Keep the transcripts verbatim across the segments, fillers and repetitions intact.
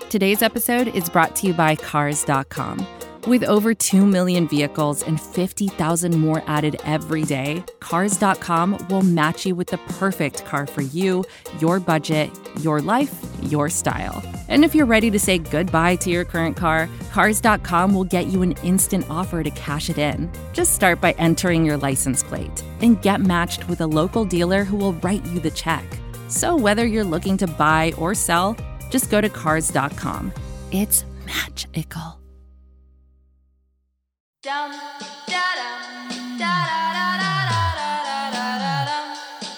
Today's episode is brought to you by Cars dot com. With over two million vehicles and fifty thousand more added every day, Cars dot com will match you with the perfect car for you, your budget, your life, your style. And if you're ready to say goodbye to your current car, Cars dot com will get you an instant offer to cash it in. Just start by entering your license plate and get matched with a local dealer who will write you the check. So whether you're looking to buy or sell, just go to Cars dot com. It's magical. Dum, da, dum, da, da, da, da, da, da, da, da,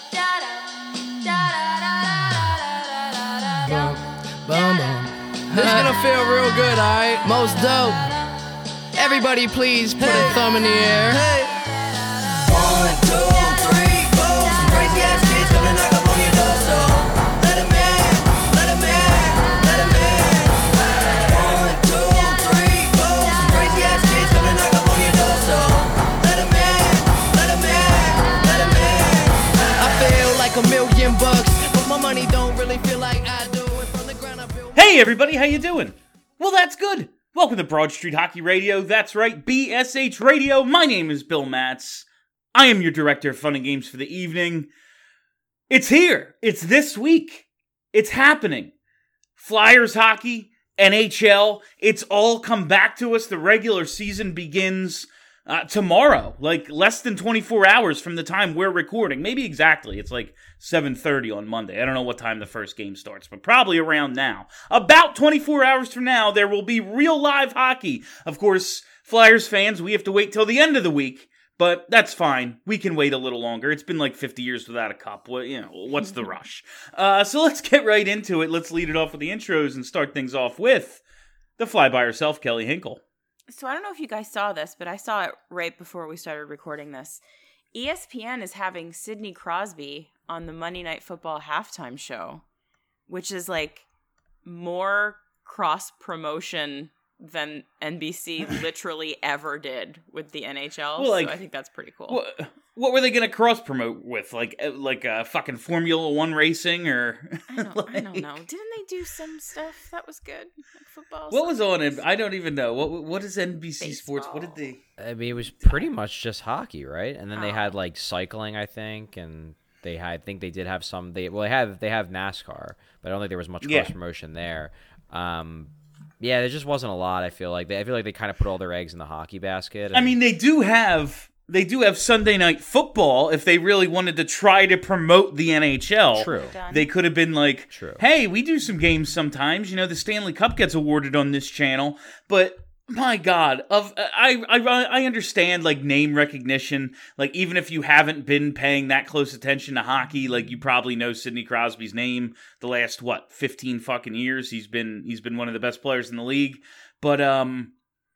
da, da, da, da. This is gonna feel real good, alright? Most dope. Everybody please put hey. a thumb in the air. Hey. One, two, three, four. Some crazy ass kids gonna knock up on your door, so let 'em in, let 'em in, let 'em in. One, two, three, four. Some crazy ass kids gonna knock up on your door, so let 'em in, let 'em in, let 'em in. I feel like a million bucks, but my money don't really feel like I do. Hey everybody, how you doing? Well, that's good. Welcome to Broad Street Hockey Radio. That's right, B S H Radio. My name is Bill Matz. I am your director of fun and games for the evening. It's here. It's this week. It's happening. Flyers hockey, N H L, it's all come back to us. The regular season begins uh, tomorrow, like less than twenty-four hours from the time we're recording. Maybe exactly. It's like seven thirty on Monday. I don't know what time the first game starts, but probably around now. About twenty-four hours from now, there will be real live hockey. Of course, Flyers fans, we have to wait till the end of the week, but that's fine. We can wait a little longer. It's been like fifty years without a cup. Well, you know, what's the rush? Uh, so let's get right into it. Let's lead it off with the intros and start things off with the fly by herself, Kelly Hinkle. So I don't know if you guys saw this, but I saw it right before we started recording this. E S P N is having Sidney Crosby on the Monday Night Football halftime show, which is like more cross-promotion than N B C literally ever did with the N H L. Well, like, so I think that's pretty cool. What, what were they going to cross-promote with? Like like uh, fucking Formula One racing? Or I don't, like, I don't know. Didn't they do some stuff that was good? Like football? What was on it? I don't even know. What What is N B C Baseball. Sports? What did they... I mean, it was pretty much just hockey, right? And then they Oh. had like cycling, I think, and they had, I think they did have some. They well, they have they have NASCAR, but I don't think there was much Yeah. cross promotion there. Um, yeah, there just wasn't a lot. I feel like they, I feel like they kind of put all their eggs in the hockey basket. And... I mean, they do have they do have Sunday Night Football. If they really wanted to try to promote the N H L, True. They could have been like, True. "Hey, we do some games sometimes. You know, the Stanley Cup gets awarded on this channel." But my God, of I I I understand like name recognition. Like even if you haven't been paying that close attention to hockey, like you probably know Sidney Crosby's name the last what fifteen fucking years. He's been he's been one of the best players in the league. But um,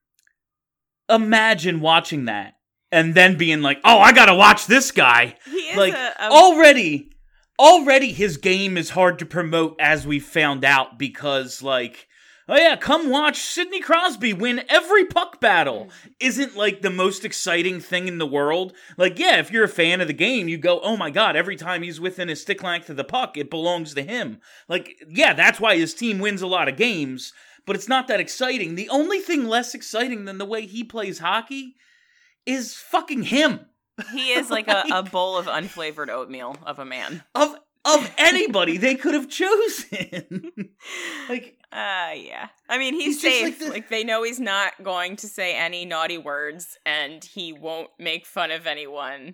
imagine watching that and then being like, "Oh, I gotta watch this guy." He is like a, a... already, already his game is hard to promote, as we found out, because like. Oh yeah, come watch Sidney Crosby win every puck battle. Isn't like the most exciting thing in the world. Like, yeah, if you're a fan of the game, you go, oh my God, every time he's within a stick length of the puck, it belongs to him. Like, yeah, that's why his team wins a lot of games, but it's not that exciting. The only thing less exciting than the way he plays hockey is fucking him. He is like, like a, a bowl of unflavored oatmeal of a man. Of Of anybody they could have chosen. like, uh, yeah. I mean, he's, he's just safe. like, the... like, they know he's not going to say any naughty words, and he won't make fun of anyone.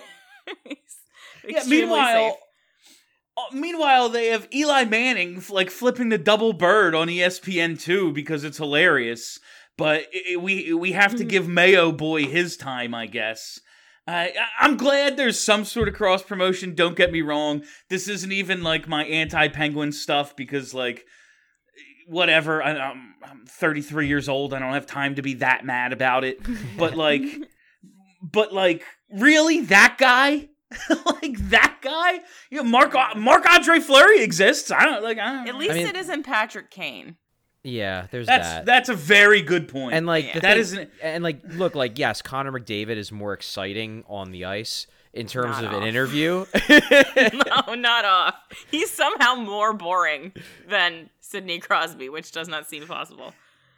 yeah. Meanwhile, uh, meanwhile, they have Eli Manning like flipping the double bird on E S P N two because it's hilarious. But it, it, we we have to give Mayo Boy his time, I guess. Uh, I'm glad there's some sort of cross promotion. Don't get me wrong. This isn't even like my anti-Penguin stuff because, like, whatever. I, I'm, I'm thirty-three years old. I don't have time to be that mad about it. But like, but like, really, that guy? Like that guy? You know, Marc Marc Andre Fleury exists. I don't like. I don't At least I mean, it isn't Patrick Kane. Yeah, there's that's, that. That's a very good point. And like Yeah. the that thing, isn't. And like, look, like yes, Connor McDavid is more exciting on the ice. in terms Not of off. an interview. No, not off. He's somehow more boring than Sidney Crosby, which does not seem possible.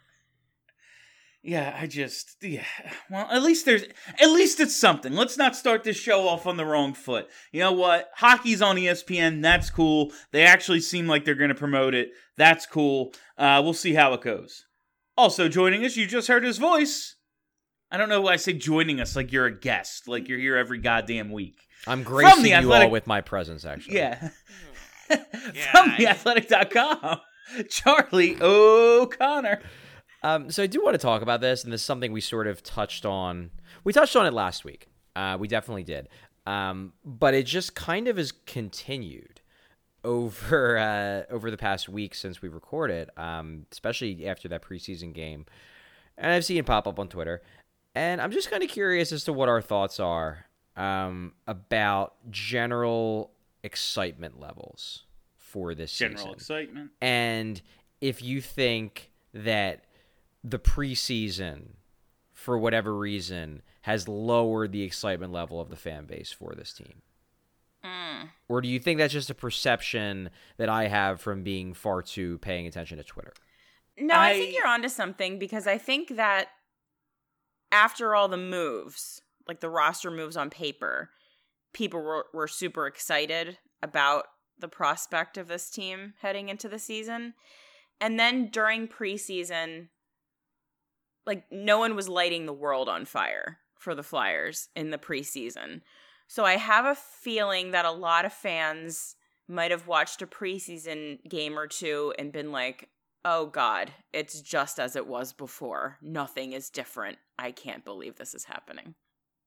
Yeah, I just yeah. Well, at least there's at least it's something. Let's not start this show off on the wrong foot. You know what? Hockey's on E S P N. That's cool. They actually seem like they're going to promote it. That's cool. Uh, we'll see how it goes. Also joining us, you just heard his voice. I don't know why I say joining us like you're a guest, like you're here every goddamn week. I'm gracing the you Athletic- all with my presence, actually. Yeah. Yeah, From I- the athletic dot com, Charlie O'Connor. Um, so I do want to talk about this, and this is something we sort of touched on. We touched on it last week. Uh, we definitely did. Um, but it just kind of has continued over uh, over the past week since we recorded, um, especially after that preseason game. And I've seen it pop up on Twitter. And I'm just kind of curious as to what our thoughts are um, about general excitement levels for this General season. excitement. And if you think that the preseason, for whatever reason, has lowered the excitement level of the fan base for this team. Mm. Or do you think that's just a perception that I have from being far too paying attention to Twitter? No, I, I- think you're onto something because I think that after all the moves, like the roster moves on paper, people were, were super excited about the prospect of this team heading into the season. And then during preseason, like no one was lighting the world on fire for the Flyers in the preseason. So I have a feeling that a lot of fans might have watched a preseason game or two and been like, oh God, it's just as it was before. Nothing is different. I can't believe this is happening.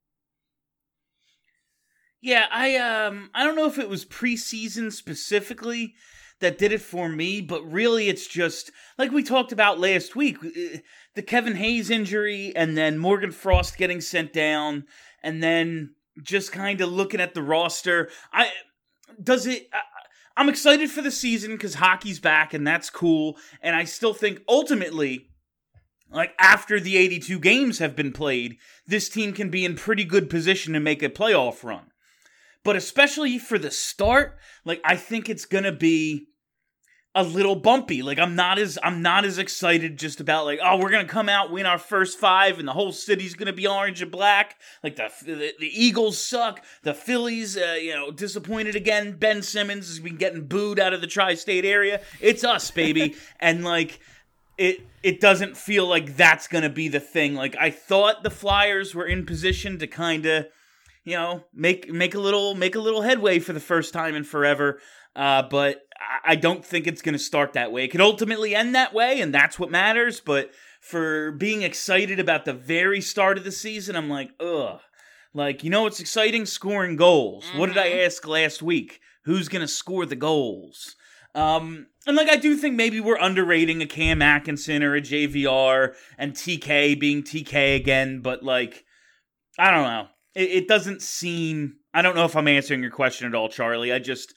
Yeah, I um I don't know if it was preseason specifically that did it for me, but really it's just like we talked about last week, the Kevin Hayes injury and then Morgan Frost getting sent down and then just kind of looking at the roster. I does it I, I'm excited for the season cuz hockey's back and that's cool, and I still think ultimately, like after the eighty-two games have been played, this team can be in pretty good position to make a playoff run. But especially for the start, like I think it's gonna be a little bumpy. Like I'm not as I'm not as excited just about like, oh, we're gonna come out, win our first five, and the whole city's gonna be orange and black. Like the the, the Eagles suck. The Phillies, uh, you know, disappointed again. Ben Simmons has been getting booed out of the tri-state area. It's us, baby, and like. It it doesn't feel like that's gonna be the thing. Like I thought the Flyers were in position to kind of, you know, make make a little make a little headway for the first time in forever. Uh, but I, I don't think it's gonna start that way. It could ultimately end that way, and that's what matters. But for being excited about the very start of the season, I'm like, ugh. Like, you know what's exciting? Scoring goals. Mm-hmm. What did I ask last week? Who's gonna score the goals? Um, and like, I do think maybe we're underrating a Cam Atkinson or a J V R and T K being T K again, but like, I don't know. It, it doesn't seem, I don't know if I'm answering your question at all, Charlie. I just,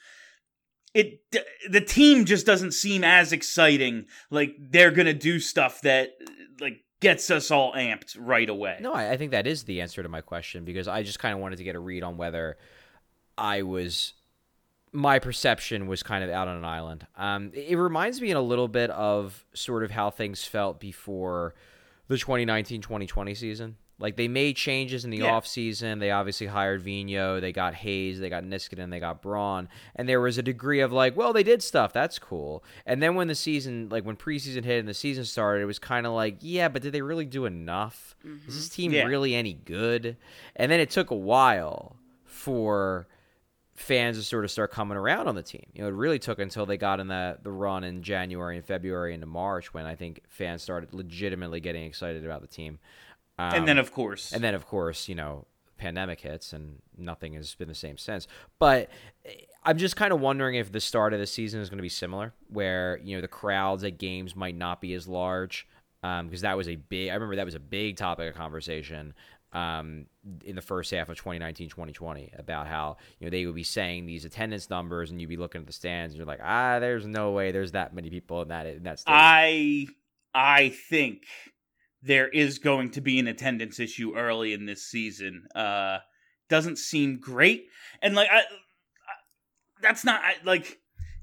it, the team just doesn't seem as exciting. Like they're going to do stuff that like gets us all amped right away. No, I, I think that is the answer to my question because I just kind of wanted to get a read on whether I was... my perception was kind of out on an island. Um, it reminds me in a little bit of sort of how things felt before the twenty nineteen twenty twenty season. Like, they made changes in the yeah. offseason. They obviously hired Vigneault. They got Hayes. They got Niskanen. They got Braun. And there was a degree of, like, well, they did stuff. That's cool. And then when the season, like, when preseason hit and the season started, it was kind of like, yeah, but did they really do enough? Mm-hmm. Is this team yeah. really any good? And then it took a while for fans to sort of start coming around on the team. You know, it really took until they got in the, the run in January and February into March when I think fans started legitimately getting excited about the team. Um, and then, of course. And then, of course, you know, pandemic hits and nothing has been the same since. But I'm just kind of wondering if the start of the season is going to be similar, where, you know, the crowds at games might not be as large, um, because that was a big, I remember that was a big topic of conversation um, in the first half of twenty nineteen twenty twenty about how, you know, they would be saying these attendance numbers and you'd be looking at the stands and you're like, ah, there's no way there's that many people in that, in that stadium. I, I think there is going to be an attendance issue early in this season. Uh, doesn't seem great. And like, I, I that's not I, like.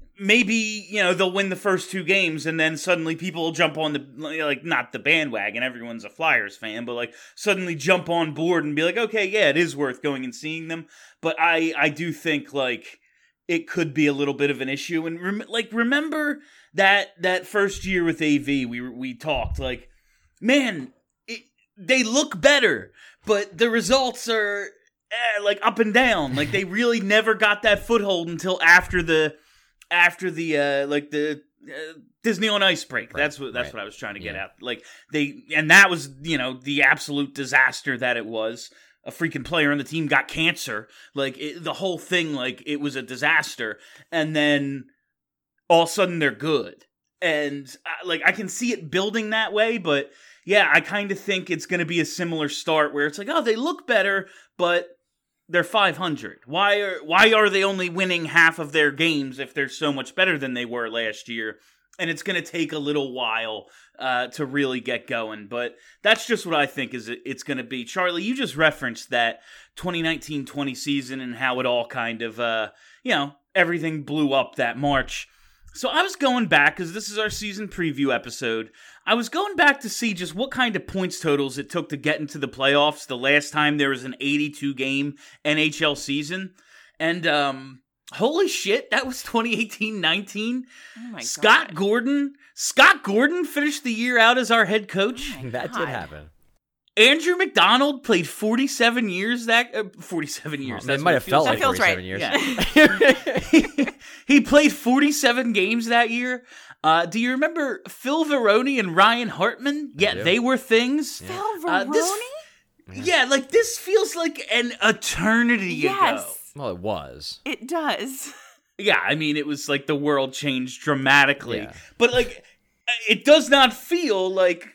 Maybe, you know, they'll win the first two games and then suddenly people will jump on the, like, not the bandwagon, everyone's a Flyers fan, but, like, suddenly jump on board and be like, okay, yeah, it is worth going and seeing them. But I, I do think, like, it could be a little bit of an issue. And, rem- like, remember that that first year with A V, we we talked, like, man, it, they look better, but the results are, eh, like, up and down. Like, they really never got that foothold until after the... After the uh, like the uh, Disney on Ice break, right, that's what that's right. what I was trying to get yeah. at. Like they, and that was you know the absolute disaster that it was. A freaking player on the team got cancer. Like it, the whole thing, like it was a disaster. And then all of a sudden they're good, and uh, like I can see it building that way. But yeah, I kind of think it's going to be a similar start where it's like, oh, they look better, but they're five hundred. Why are why are they only winning half of their games if they're so much better than they were last year? And it's going to take a little while uh, to really get going. But that's just what I think is it's going to be. Charlie, you just referenced that twenty nineteen twenty season and how it all kind of, uh, you know, everything blew up that March. So I was going back, because this is our season preview episode, I was going back to see just what kind of points totals it took to get into the playoffs the last time there was an eighty-two game N H L season. And, um, holy shit, that was twenty eighteen nineteen. Oh my Scott God. Gordon. Scott Gordon finished the year out as our head coach. Oh my that God. did happen. Andrew McDonald played forty-seven years that uh, forty-seven years. Oh, That's it might what have it felt feels like That feels forty-seven right. years. Yeah. He played forty-seven games that year. Uh, do you remember Phil Varone and Ryan Hartman? Yeah, do. they were things. Phil Uh, Varone? this- Yeah, like this feels like an eternity ago. Yes, Well, it was. it does. Yeah, I mean, it was like the world changed dramatically. Yeah. But like, it does not feel like,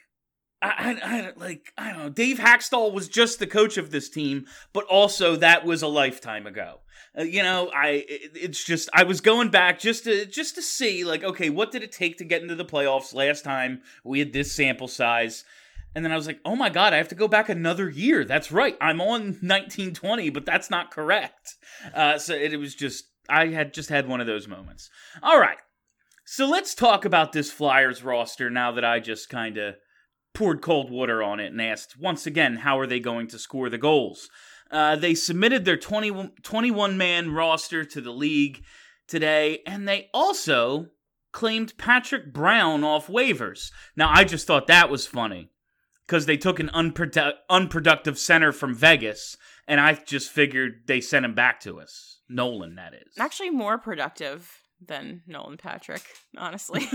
I, I, I, like, I don't know, Dave Hackstall was just the coach of this team, but also that was a lifetime ago. Uh, you know, I, it, it's just, I was going back just to, just to see, like, okay, what did it take to get into the playoffs last time we had this sample size? And then I was like, oh my God, I have to go back another year. That's right. I'm on nineteen twenty, but that's not correct. Uh, so it, it was just, I had just had one of those moments. All right. So let's talk about this Flyers roster now that I just kind of poured cold water on it and asked, once again, how are they going to score the goals? Uh, they submitted their twenty, twenty-one man roster to the league today, and they also claimed Patrick Brown off waivers. Now, I just thought that was funny, because they took an unprodu- unproductive center from Vegas, and I just figured they sent him back to us. Nolan, that is. Actually, more productive than Nolan Patrick, honestly.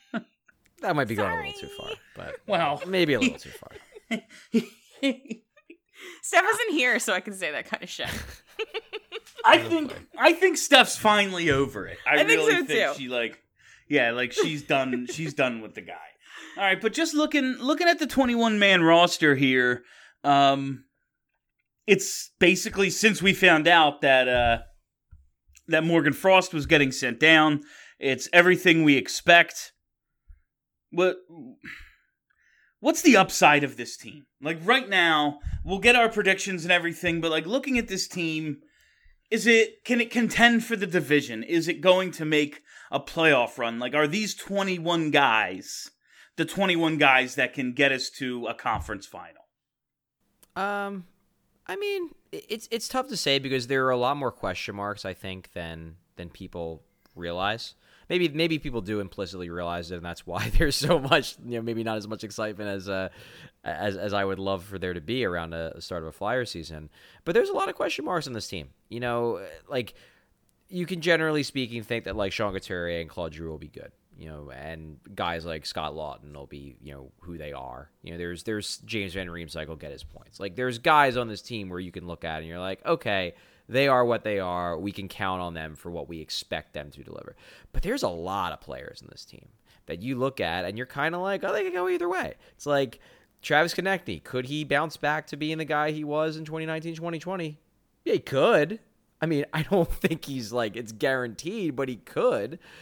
That might be going a Sorry. little too far, but Well, maybe a little too far. Steph isn't here, so I can say that kind of shit. I think I think Steph's finally over it. I, I think really so, think too. she like, yeah, like she's done. She's done with the guy. All right, but just looking looking at the twenty-one man roster here, um, it's basically since we found out that uh, that Morgan Frost was getting sent down, it's everything we expect. What what's the upside of this team? Like right now, we'll get our predictions and everything, but like looking at this team, is it can it contend for the division? Is it going to make a playoff run? Like, are these twenty-one guys the twenty-one guys that can get us to a conference final? Um, I mean, it's it's tough to say because there are a lot more question marks, I think, than than people realize. Maybe maybe people do implicitly realize it, and that's why there's so much, you know, maybe not as much excitement as uh as as I would love for there to be around a, the start of a Flyer season. But there's a lot of question marks on this team. You know, like you can generally speaking think that like Sean Couturier and Claude Giroux will be good. You know, and guys like Scott Lawton will be, you know, who they are. You know, there's there's James Van Riemsdyk will get his points. Like, there's guys on this team where you can look at and you're like, okay, they are what they are. We can count on them for what we expect them to deliver. But there's a lot of players in this team that you look at and you're kind of like, oh, they could go either way. It's like Travis Konechny. Could he bounce back to being the guy he was in twenty nineteen twenty twenty? Yeah, he could. I mean, I don't think he's like, it's guaranteed, but he could.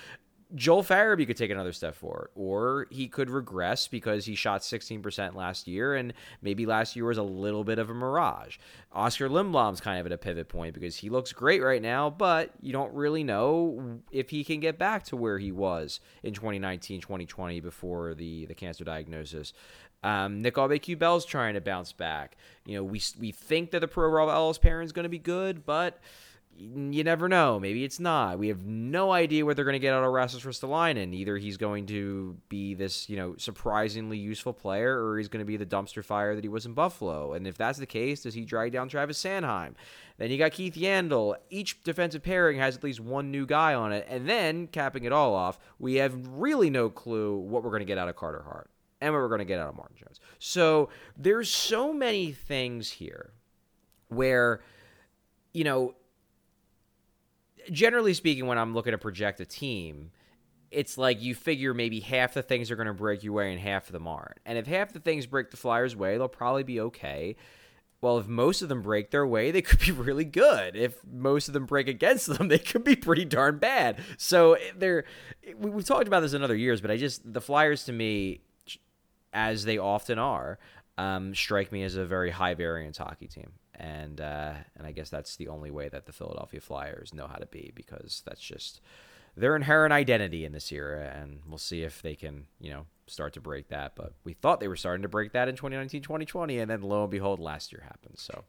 Joel Farabee could take another step forward, or he could regress because he shot sixteen percent last year, and maybe last year was a little bit of a mirage. Oscar Lindblom's kind of at a pivot point because he looks great right now, but you don't really know if he can get back to where he was in twenty nineteen, twenty twenty before the, the cancer diagnosis. Um, Nick Aubé-Kubel's trying to bounce back. You know, we we think that the Pro Ellis Perrin is going to be good, but you never know. Maybe it's not. We have no idea what they're going to get out of Rasmus Ristolainen. Either he's going to be this, you know, surprisingly useful player, or he's going to be the dumpster fire that he was in Buffalo. And if that's the case, does he drag down Travis Sanheim? Then you got Keith Yandel. Each defensive pairing has at least one new guy on it. And then, capping it all off, we have really no clue what we're going to get out of Carter Hart and what we're going to get out of Martin Jones. So there's so many things here where, you know, generally speaking, when I'm looking to project a team, it's like you figure maybe half the things are going to break your way and half of them aren't. And if half the things break the Flyers' way, they'll probably be okay. Well, if most of them break their way, they could be really good. If most of them break against them, they could be pretty darn bad. So they're we, we've talked about this in other years, but I just the Flyers to me, as they often are, um, strike me as a very high variance hockey team. And uh, and I guess that's the only way that the Philadelphia Flyers know how to be, because that's just their inherent identity in this era, and we'll see if they can, you know, start to break that. But we thought they were starting to break that in twenty nineteen, twenty twenty, and then lo and behold, last year happened. So,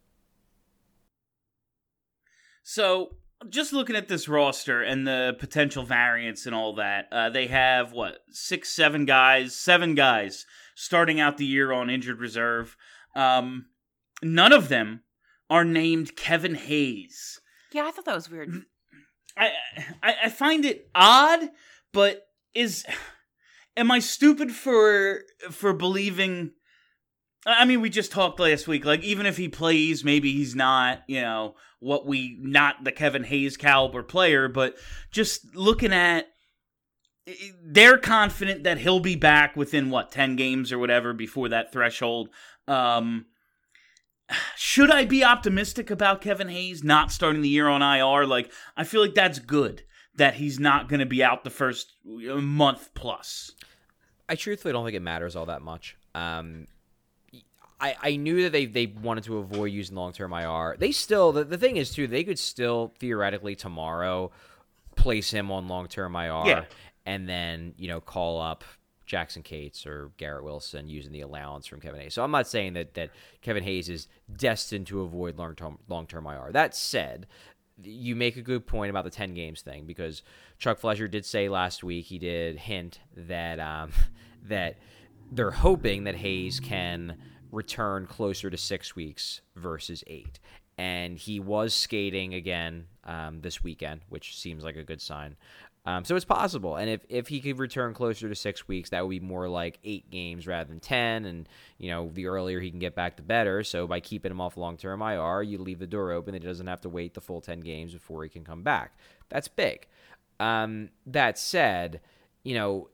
so just looking at this roster and the potential variance and all that, uh, they have what six, seven guys, seven guys starting out the year on injured reserve. Um, none of them are named Kevin Hayes. Yeah, I thought that was weird. I, I I find it odd, but is am I stupid for for believing? I mean, we just talked last week. Like, even if he plays, maybe he's not, you know, what we not the Kevin Hayes caliber player. But just looking at, they're confident that he'll be back within what ten games or whatever before that threshold. Um, Should I be optimistic about Kevin Hayes not starting the year on I R? Like, I feel like that's good that he's not going to be out the first month plus. I truthfully don't think it matters all that much. Um, I, I knew that they, they wanted to avoid using long-term I R. They still, the, the thing is, too, they could still theoretically tomorrow place him on long-term I R, yeah, and then, you know, call up Jackson Cates or Garrett Wilson using the allowance from Kevin Hayes. So I'm not saying that, that Kevin Hayes is destined to avoid long-term long-term I R. That said, you make a good point about the ten games thing, because Chuck Fletcher did say last week, he did hint that um, that they're hoping that Hayes can return closer to six weeks versus eight. And he was skating again um, this weekend, which seems like a good sign. Um, so it's possible. And if, if he could return closer to six weeks, that would be more like eight games rather than ten. And, you know, the earlier he can get back, the better. So by keeping him off long-term I R, you leave the door open that he doesn't have to wait the full ten games before he can come back. That's big. Um, that said, you know,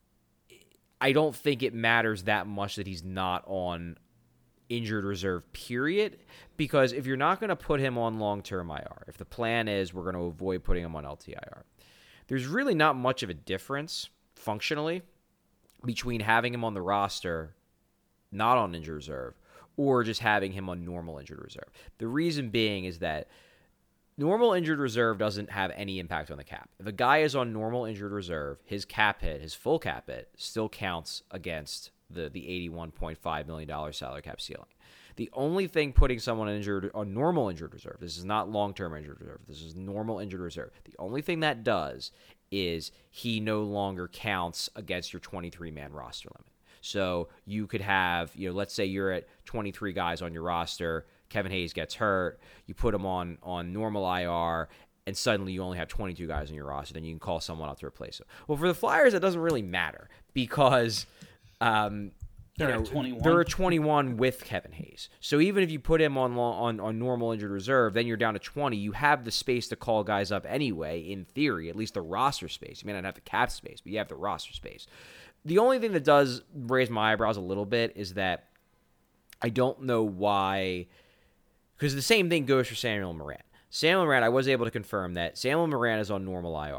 I don't think it matters that much that he's not on injured reserve, period, because if you're not going to put him on long-term I R, if the plan is we're going to avoid putting him on L T I R, there's really not much of a difference functionally between having him on the roster, not on injured reserve, or just having him on normal injured reserve. The reason being is that normal injured reserve doesn't have any impact on the cap. If a guy is on normal injured reserve, his cap hit, his full cap hit, still counts against the, the eighty-one point five million dollars salary cap ceiling. The only thing putting someone injured on normal injured reserve, this is not long-term injured reserve, this is normal injured reserve. The only thing that does is he no longer counts against your twenty-three man roster limit. So you could have, you know, let's say you're at twenty-three guys on your roster, Kevin Hayes gets hurt, you put him on, on normal I R, and suddenly you only have twenty-two guys on your roster, then you can call someone up to replace him. Well, for the Flyers, it doesn't really matter because um, They're you know, at twenty-one. They're at twenty-one with Kevin Hayes. So even if you put him on, on on normal injured reserve, then you're down to twenty. You have the space to call guys up anyway, in theory, at least the roster space. You may not have the cap space, but you have the roster space. The only thing that does raise my eyebrows a little bit is that I don't know why, because the same thing goes for Samuel Morin. Samuel Morin, I was able to confirm that Samuel Morin is on normal I R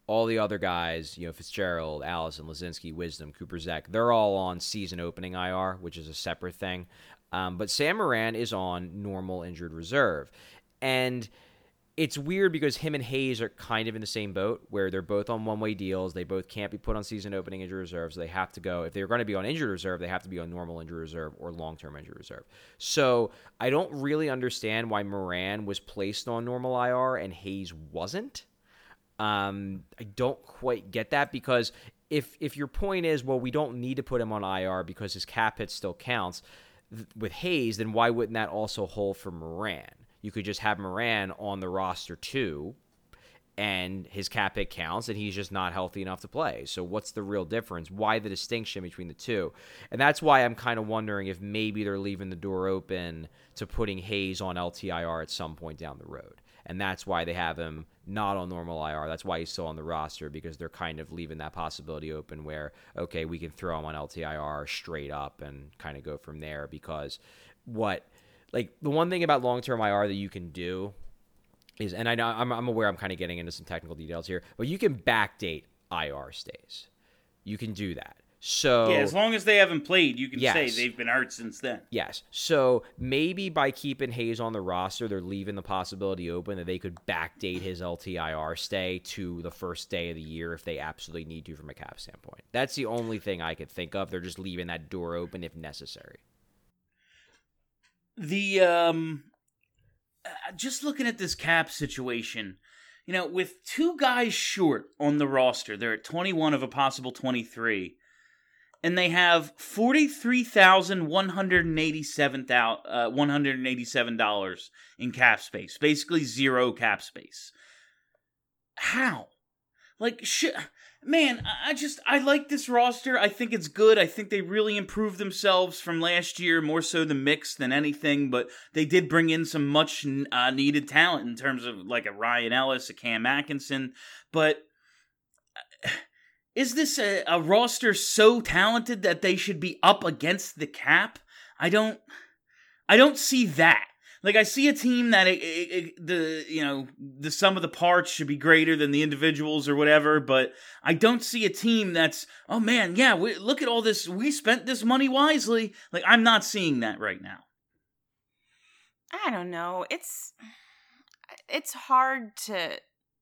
All the other guys, you know, Fitzgerald, Allison, Lazinski, Wisdom, Cooper Zek, they're all on season opening I R, which is a separate thing. Um, but Sam Moran is on normal injured reserve. And it's weird because him and Hayes are kind of in the same boat where they're both on one-way deals. They both can't be put on season opening injured reserve, so they have to go. If they're going to be on injured reserve, they have to be on normal injured reserve or long-term injured reserve. So I don't really understand why Moran was placed on normal I R and Hayes wasn't. Um, I don't quite get that because if if your point is, well, we don't need to put him on I R because his cap hit still counts th- with Hayes, then why wouldn't that also hold for Moran? You could just have Moran on the roster too, and his cap hit counts, and he's just not healthy enough to play. So what's the real difference? Why the distinction between the two? And that's why I'm kind of wondering if maybe they're leaving the door open to putting Hayes on L T I R at some point down the road. And that's why they have him not on normal I R. That's why he's still on the roster, because they're kind of leaving that possibility open where, okay, we can throw him on L T I R straight up and kind of go from there. Because what, like, the one thing about long-term I R that you can do is, and I know I'm, I'm aware I'm kind of getting into some technical details here, but you can backdate I R stays. You can do that. So yeah, as long as they haven't played, you can yes. say they've been hurt since then. Yes. So maybe by keeping Hayes on the roster, they're leaving the possibility open that they could backdate his L T I R stay to the first day of the year if they absolutely need to from a cap standpoint. That's the only thing I could think of. They're just leaving that door open if necessary. The um, uh, just looking at this cap situation, you know, with two guys short on the roster, they're at twenty-one of a possible twenty-three. And they have forty-three thousand one hundred eighty-seven dollars in cap space. Basically zero cap space. How? Like, shit. Man, I just, I like this roster. I think it's good. I think they really improved themselves from last year, more so the mix than anything. But they did bring in some much uh, needed talent in terms of like a Ryan Ellis, a Cam Atkinson. But is this a, a roster so talented that they should be up against the cap? I don't, I don't see that. Like, I see a team that it, it, it, the you know the sum of the parts should be greater than the individuals or whatever, but I don't see a team that's, oh man, yeah, we, look at all this, we spent this money wisely. Like, I'm not seeing that right now. I don't know. It's it's hard to,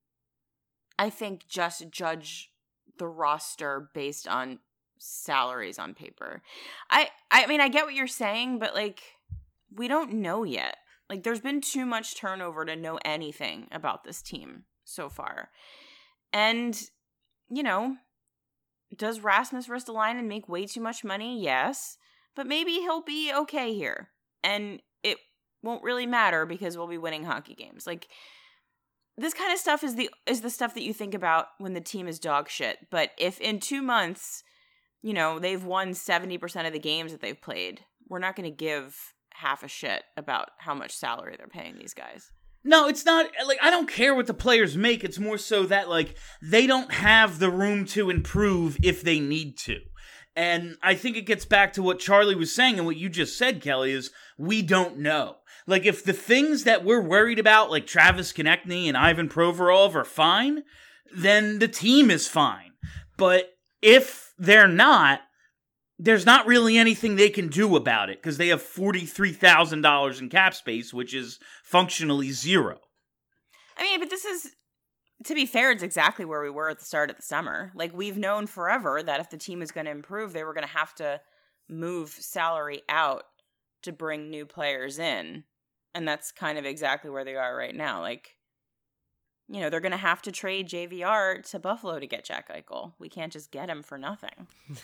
I think, just judge the roster based on salaries on paper. I I mean, I get what you're saying, but like, we don't know yet. Like, there's been too much turnover to know anything about this team so far. And, you know, does Rasmus Ristolainen make way too much money? Yes. But maybe he'll be okay here. And it won't really matter because we'll be winning hockey games. Like, this kind of stuff is the is the stuff that you think about when the team is dog shit. But if in two months, you know, they've won seventy percent of the games that they've played, we're not going to give half a shit about how much salary they're paying these guys. No, it's not, like, I don't care what the players make. It's more so that, like, they don't have the room to improve if they need to. And I think it gets back to what Charlie was saying and what you just said, Kelly, is we don't know. Like, if the things that we're worried about, like Travis Konechny and Ivan Provorov, are fine, then the team is fine. But if they're not, there's not really anything they can do about it because they have forty-three thousand dollars in cap space, which is functionally zero. I mean, but this is, to be fair, it's exactly where we were at the start of the summer. Like, we've known forever that if the team is going to improve, they were going to have to move salary out to bring new players in. And that's kind of exactly where they are right now. Like, you know, they're going to have to trade J V R to Buffalo to get Jack Eichel. We can't just get him for nothing.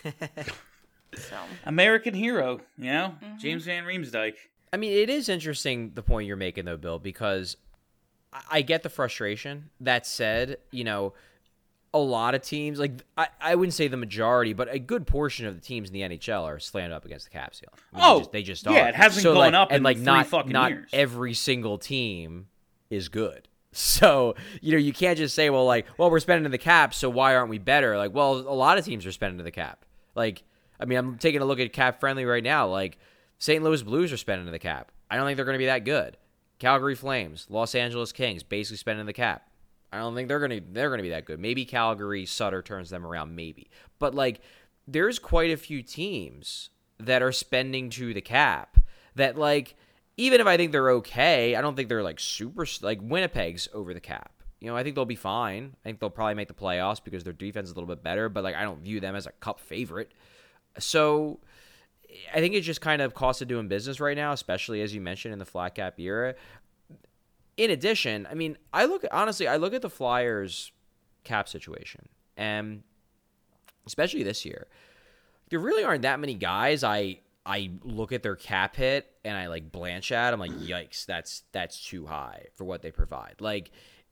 So. American hero, you know? Mm-hmm. James Van Riemsdyk. I mean, it is interesting, the point you're making, though, Bill, because I, I get the frustration. That said, you know, a lot of teams, like, I, I wouldn't say the majority, but a good portion of the teams in the N H L are slammed up against the cap ceiling. I mean, oh, they just, they just are. Yeah, it hasn't so, gone like, up and, in like, three not, fucking not years. every single team is good. So, you know, you can't just say, well, like, well, we're spending to the cap, so why aren't we better? Like, well, a lot of teams are spending to the cap. Like, I mean, I'm taking a look at Cap Friendly right now. Like, Saint Louis Blues are spending to the cap. I don't think they're going to be that good. Calgary Flames, Los Angeles Kings, basically spending the cap. I don't think they're gonna they're gonna be that good. Maybe Calgary, Sutter turns them around, maybe. But like, there's quite a few teams that are spending to the cap that like, even if I think they're okay, I don't think they're like super like Winnipeg's over the cap. You know, I think they'll be fine. I think they'll probably make the playoffs because their defense is a little bit better, but like I don't view them as a cup favorite. So I think it's just kind of cost of doing business right now, especially as you mentioned in the flat cap era. In addition, I mean, I look honestly, I look at the Flyers cap situation, and especially this year, there really aren't that many guys I I look at their cap hit and I like blanch at. I'm like, yikes, that's that's too high for what they provide. Like,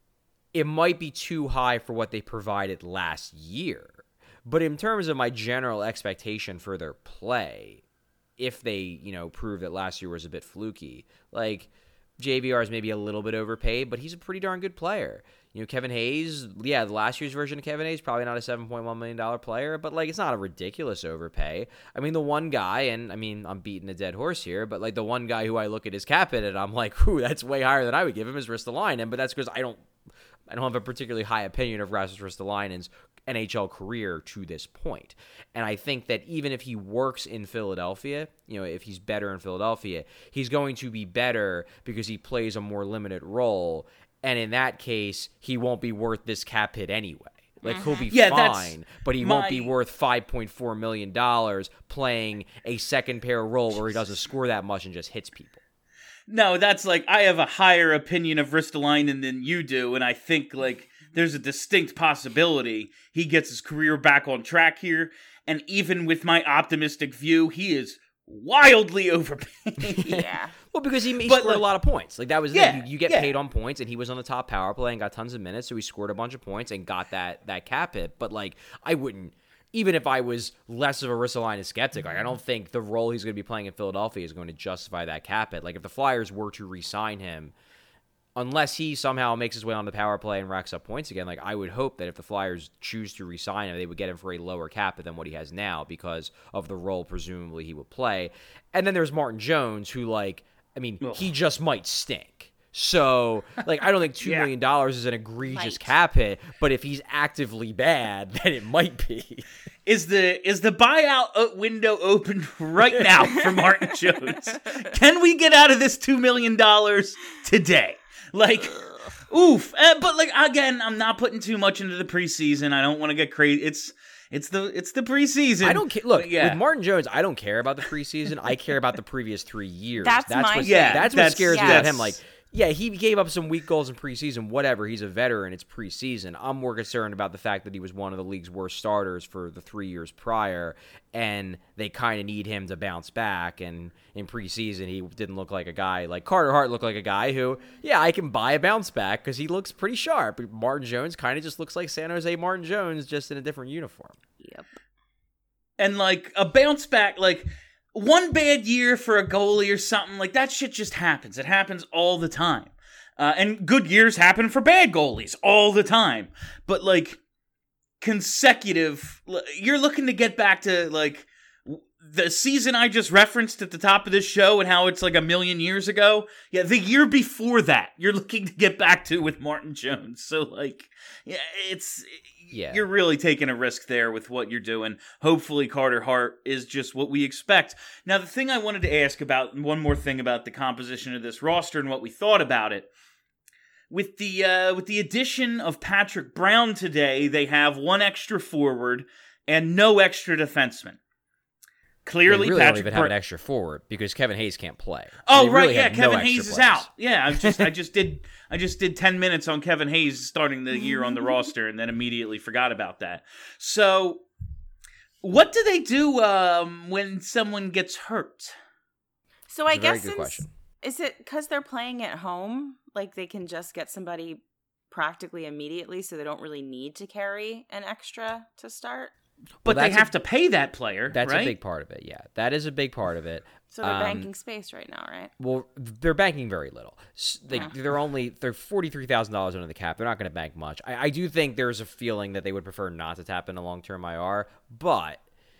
it might be too high for what they provided last year, but in terms of my general expectation for their play, if they, you know, prove that last year was a bit fluky, like J V R is maybe a little bit overpaid, but he's a pretty darn good player. You know, Kevin Hayes, yeah, the last year's version of Kevin Hayes, probably not a seven point one million dollars player, but, like, it's not a ridiculous overpay. I mean, the one guy, and, I mean, I'm beating a dead horse here, but, like, the one guy who I look at his cap hit and I'm like, ooh, that's way higher than I would give him is Ristolainen, but that's because I don't I don't have a particularly high opinion of Rasmus Ristolainen's N H L career to this point. And I think that even if he works in Philadelphia, you know, if he's better in Philadelphia, he's going to be better because he plays a more limited role. And in that case, he won't be worth this cap hit anyway. Like, he'll be Yeah, fine, but he my- won't be worth five point four million dollars playing a second pair role where he doesn't score that much and just hits people. No, that's like, I have a higher opinion of Ristolainen than you do, and I think, like, there's a distinct possibility he gets his career back on track here, and even with my optimistic view, he is wildly overpaid. Yeah. Well, because he, he But, scored like- a lot of points. Like, that was Yeah, it. You, you get yeah. paid on points, and he was on the top power play and got tons of minutes, so he scored a bunch of points and got that that cap hit. But, like, I wouldn't, even if I was less of a Ristolainen skeptic, like, I don't think the role he's going to be playing in Philadelphia is going to justify that cap hit. Like, if the Flyers were to re-sign him, unless he somehow makes his way on the power play and racks up points again, like, I would hope that if the Flyers choose to re-sign him, they would get him for a lower cap hit than what he has now because of the role presumably he would play. And then there's Martin Jones, who, like, I mean, Ugh. he just might stink. So, like, I don't think two Yeah. million dollars is an egregious Might. cap hit, but if he's actively bad, then it might be. Is the is the buyout o- window open right now for Martin Jones? Can we get out of this two million dollars today? Like, oof. Uh, but, like, again, I'm not putting too much into the preseason. I don't want to get crazy. It's it's the it's the preseason. I don't care. Look, But yeah. with Martin Jones, I don't care about the preseason. I care about the previous three years. That's my what, thing. Yeah, that's, that's- what scares me yes. about him. Like, yeah, he gave up some weak goals in preseason. Whatever. He's a veteran. It's preseason. I'm more concerned about the fact that he was one of the league's worst starters for the three years prior, and they kind of need him to bounce back. And in preseason, he didn't look like a guy like Carter Hart looked like a guy who, yeah, I can buy a bounce back because he looks pretty sharp. Martin Jones kind of just looks like San Jose Martin Jones, just in a different uniform. Yep. And, like, a bounce back, like, one bad year for a goalie or something, like, that shit just happens. It happens all the time. Uh, and good years happen for bad goalies all the time. But, like, consecutive, l- you're looking to get back to, like, w- the season I just referenced at the top of this show and how it's like a million years ago. Yeah, the year before that, you're looking to get back to with Martin Jones. So, like, yeah, it's... Yeah. You're really taking a risk there with what you're doing. Hopefully Carter Hart is just what we expect. Now, the thing I wanted to ask about, one more thing about the composition of this roster and what we thought about it. With the uh, with the addition of Patrick Brown today, they have one extra forward and no extra defenseman. Clearly, They really Patrick don't even Br- have an extra forward because Kevin Hayes can't play. So Oh they right, really yeah, have no Kevin extra Hayes is players. out. Yeah, I just I just did I just did ten minutes on Kevin Hayes starting the year on the roster and then immediately forgot about that. So what do they do um, when someone gets hurt? So I It's a very guess good since, question. is it because they're playing at home, like they can just get somebody practically immediately, so they don't really need to carry an extra to start? But they that's a- have to pay that player, That's right? a big part of it. Yeah, that is a big part of it. So they're Um, banking space right now, right? Well, they're banking very little. S- They, Yeah. They're only they're forty three thousand dollars under the cap. They're not going to bank much. I, I do think there's a feeling that they would prefer not to tap into long term I R. But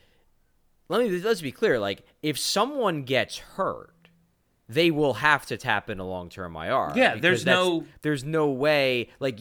let me let's be clear. Like, if someone gets hurt, they will have to tap into long term I R. Yeah, because there's that's- no- there's no way. Like you.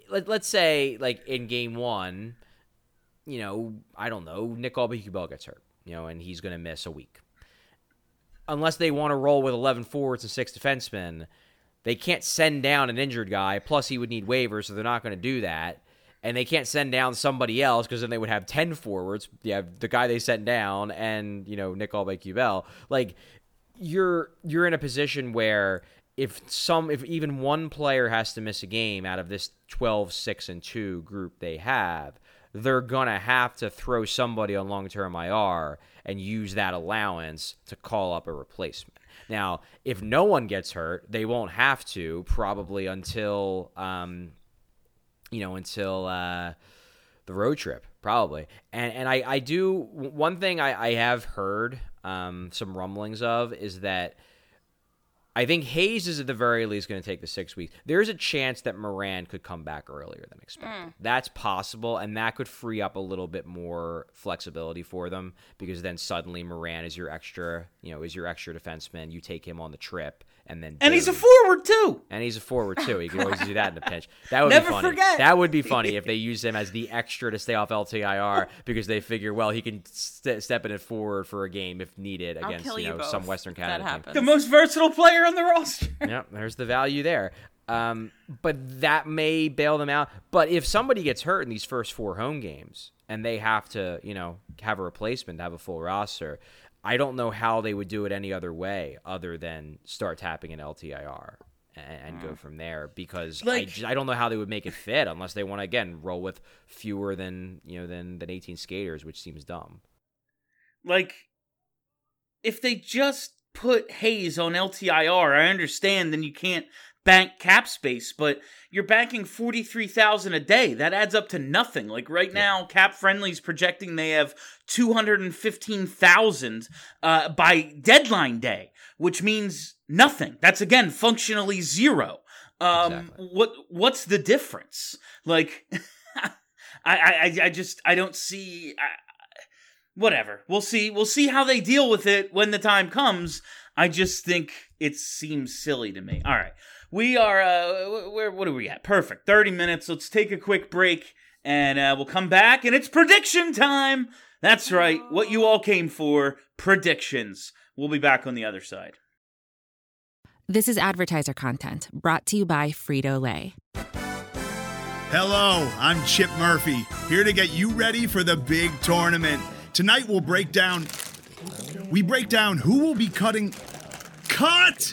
let, let's say, like, in game one, you know, I don't know, Nick Aubé-Kubel gets hurt, you know, and he's going to miss a week. Unless they want to roll with eleven forwards and six defensemen, they can't send down an injured guy. Plus, he would need waivers, so they're not going to do that. And they can't send down somebody else because then they would have ten forwards. You have the guy they sent down and, you know, Nick Aubé-Kubel. Like, you're you're in a position where if some if even one player has to miss a game out of this twelve, six, and two group they have, they're going to have to throw somebody on long-term I R and use that allowance to call up a replacement. Now, if no one gets hurt, they won't have to probably until, um, you know, until uh, the road trip, probably. And and I, I do, one thing I, I have heard um, some rumblings of is that I think Hayes is at the very least going to take the six weeks. There's a chance that Moran could come back earlier than expected. Mm. That's possible, and that could free up a little bit more flexibility for them because then suddenly Moran is your extra, you know, is your extra defenseman. You take him on the trip, and then and boom. he's a forward too. And he's a forward too. You can always do that in a pinch. That would Never be funny. Forget. That would be funny if they use him as the extra to stay off L T I R because they figure, well, he can st- step in it forward for a game if needed against you know you some Western Canada team. The most versatile player on the roster. Yep, there's the value there. Um, but that may bail them out. But if somebody gets hurt in these first four home games and they have to, you know, have a replacement, have a full roster, I don't know how they would do it any other way other than start tapping an L T I R and, and mm. go from there because like, I, just, I don't know how they would make it fit unless they want to, again, roll with fewer than, you know, than, than eighteen skaters, which seems dumb. Like, if they just put Hayes on L T I R, I understand then you can't bank cap space, but you're banking forty-three thousand dollars a day. That adds up to nothing. Like right now, Cap Friendly's projecting they have two hundred fifteen thousand dollars uh, by deadline day, which means nothing. That's, again, functionally zero. Um, exactly. What What's the difference? Like, I, I, I just, I don't see... I, Whatever. We'll see. We'll see how they deal with it when the time comes. I just think it seems silly to me. All right. We are, uh, where, what are we at? Perfect. thirty minutes. Let's take a quick break and uh, we'll come back and it's prediction time. That's right. What you all came for, predictions. We'll be back on the other side. This is advertiser content brought to you by Frito-Lay. Hello, I'm Chip Murphy, here to get you ready for the big tournament. Tonight we'll break down, we break down who will be cutting, cut!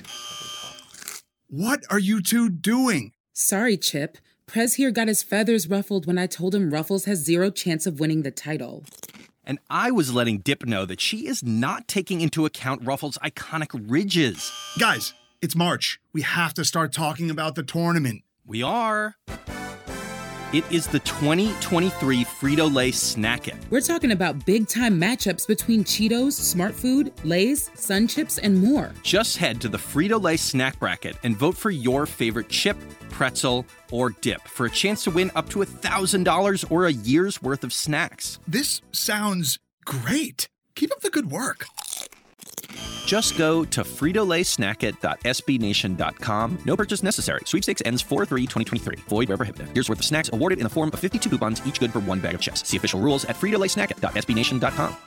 What are you two doing? Sorry, Chip. Prez here got his feathers ruffled when I told him Ruffles has zero chance of winning the title. And I was letting Dip know that she is not taking into account Ruffles' iconic ridges. Guys, it's March. We have to start talking about the tournament. We are. It is the twenty twenty-three Frito-Lay Snack It. We're talking about big-time matchups between Cheetos, Smart Food, Lay's, Sun Chips, and more. Just head to the Frito-Lay Snack Bracket and vote for your favorite chip, pretzel, or dip for a chance to win up to one thousand dollars or a year's worth of snacks. This sounds great. Keep up the good work. Just go to frito lay snack it dot s b nation dot com. No purchase necessary. Sweepstakes ends four three twenty twenty-three. Void where prohibited. Here's worth of snacks awarded in the form of fifty-two coupons, each good for one bag of chips. See official rules at frito lay snack it dot s b nation dot com.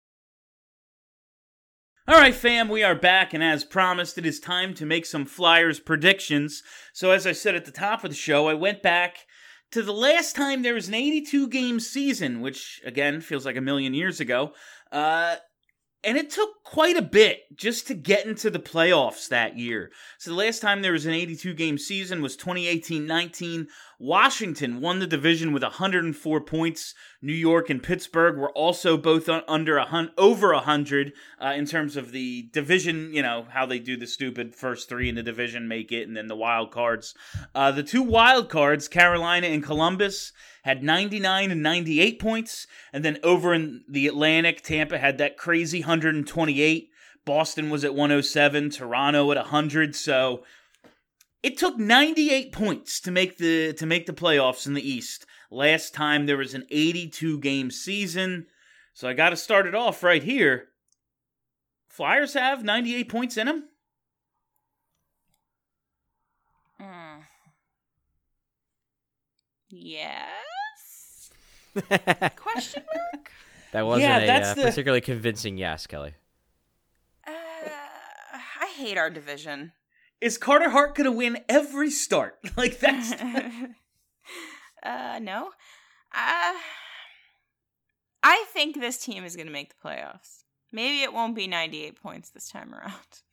All right, fam, we are back, and as promised, it is time to make some Flyers predictions. So as I said at the top of the show, I went back to the last time there was an eighty-two game season, which, again, feels like a million years ago. Uh... And it took quite a bit just to get into the playoffs that year. So the last time there was an eighty-two game season was twenty eighteen nineteen. Washington won the division with one hundred four points. New York and Pittsburgh were also both under a hun- over one hundred uh, in terms of the division, you know, how they do the stupid first three in the division make it, and then the wild cards. Uh, the two wild cards, Carolina and Columbus, had ninety-nine and ninety-eight points, and then over in the Atlantic, Tampa had that crazy one hundred twenty-eight. Boston was at one oh seven, Toronto at one hundred, so it took ninety-eight points to make the to make the playoffs in the East. Last time there was an eighty-two game season, so I got to start it off right here. Flyers have ninety-eight points in them? Mm. Yes? Question mark? That wasn't Yeah, a that's uh, the- particularly convincing yes, Kelly. Uh, I hate our division. Is Carter Hart going to win every start? Like, that's... uh, no. Uh, I think this team is going to make the playoffs. Maybe it won't be ninety-eight points this time around.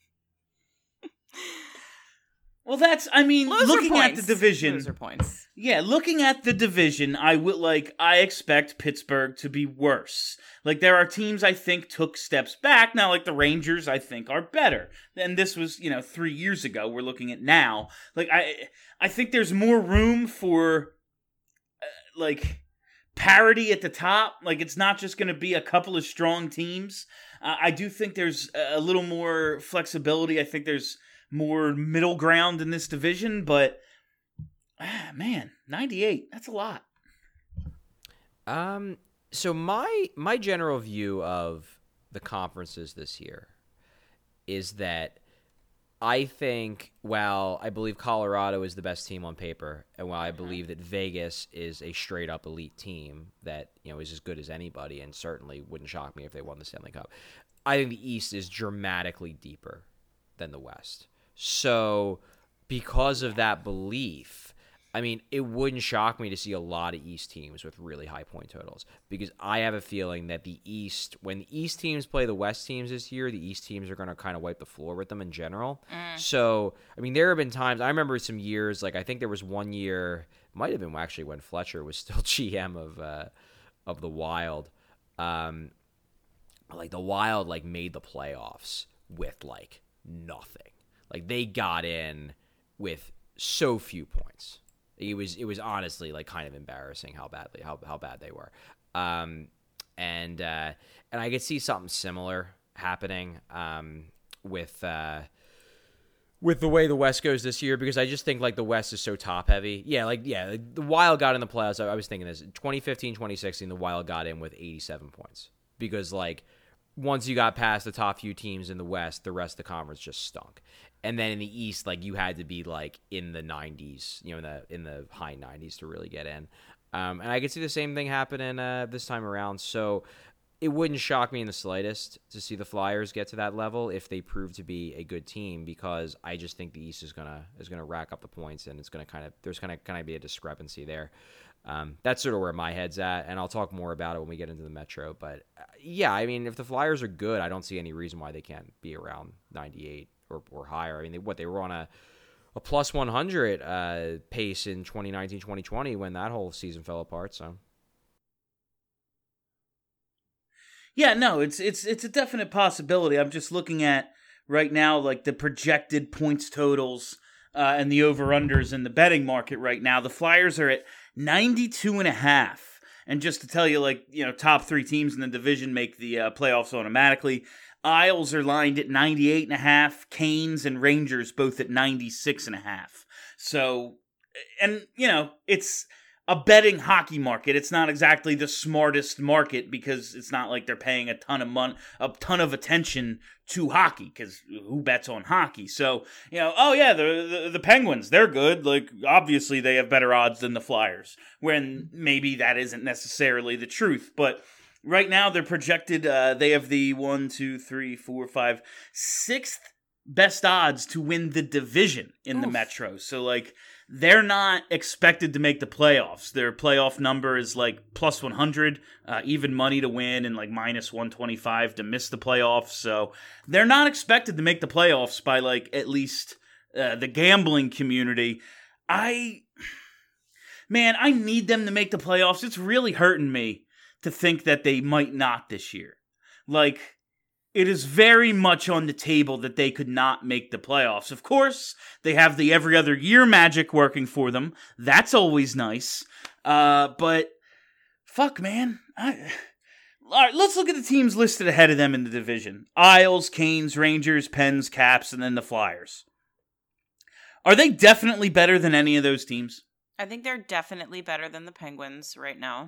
Well, that's, I mean, Loser looking points. at the division... Loser points. Yeah, looking at the division, I would like I expect Pittsburgh to be worse. Like there are teams I think took steps back. Now, like the Rangers, I think are better. And this was, you know, three years ago. We're looking at now. Like I, I think there's more room for, uh, like, parity at the top. Like it's not just going to be a couple of strong teams. Uh, I do think there's a little more flexibility. I think there's more middle ground in this division, but. Ah, man, ninety-eight. That's a lot. Um, so my my general view of the conferences this year is that I think while I believe Colorado is the best team on paper, and while I believe that Vegas is a straight up elite team that, you know, is as good as anybody and certainly wouldn't shock me if they won the Stanley Cup, I think the East is dramatically deeper than the West. So because of that belief, I mean, it wouldn't shock me to see a lot of East teams with really high point totals because I have a feeling that the East, when the East teams play the West teams this year, the East teams are going to kind of wipe the floor with them in general. Mm. So, I mean, there have been times, I remember some years, like I think there was one year, might have been actually when Fletcher was still G M of uh, of the Wild. Um, like the Wild like made the playoffs with like nothing. Like they got in with so few points. It was it was honestly like kind of embarrassing how badly how how bad they were, um, and uh, and I could see something similar happening um, with uh, with the way the West goes this year because I just think like the West is so top heavy. Yeah, like yeah, like, the Wild got in the playoffs. I, I was thinking this twenty fifteen, twenty sixteen, the Wild got in with eighty-seven points because like once you got past the top few teams in the West, the rest of the conference just stunk. And then in the East, like you had to be like in the nineties, you know, in the in the high nineties to really get in. Um, and I could see the same thing happening uh, this time around. So it wouldn't shock me in the slightest to see the Flyers get to that level if they prove to be a good team, because I just think the East is gonna is gonna rack up the points, and it's gonna kind of there's gonna kind of be a discrepancy there. Um, that's sort of where my head's at, and I'll talk more about it when we get into the Metro. But uh, yeah, I mean, if the Flyers are good, I don't see any reason why they can't be around ninety-eight. Or, or higher. I mean, they, what they were on a a plus one hundred uh, pace in twenty nineteen twenty twenty when that whole season fell apart. So, yeah, no, it's it's it's a definite possibility. I'm just looking at right now, like the projected points totals uh, and the over-unders in the betting market right now. The Flyers are at ninety-two and a half. And just to tell you, like, you know, top three teams in the division make the uh, playoffs automatically. Isles are lined at ninety-eight and a half. Canes and Rangers both at ninety-six and a half. So, and, you know, it's a betting hockey market. It's not exactly the smartest market because it's not like they're paying a ton of money, a ton of attention to hockey, because who bets on hockey? So, you know, oh yeah, the, the the Penguins, they're good. Like, obviously they have better odds than the Flyers, when maybe that isn't necessarily the truth. But right now they're projected, uh, they have the one, two, three, four, five, sixth best odds to win the division in Oof. the Metro. So, like, they're not expected to make the playoffs. Their playoff number is like plus one hundred, uh, even money to win, and like minus one twenty-five to miss the playoffs. So they're not expected to make the playoffs by like at least uh, the gambling community. I, man, I need them to make the playoffs. It's really hurting me to think that they might not this year. Like, it is very much on the table that they could not make the playoffs. Of course, they have the every other year magic working for them. That's always nice. Uh, but, fuck, man. I, all right, let's look at the teams listed ahead of them in the division. Isles, Canes, Rangers, Pens, Caps, and then the Flyers. Are they definitely better than any of those teams? I think they're definitely better than the Penguins right now.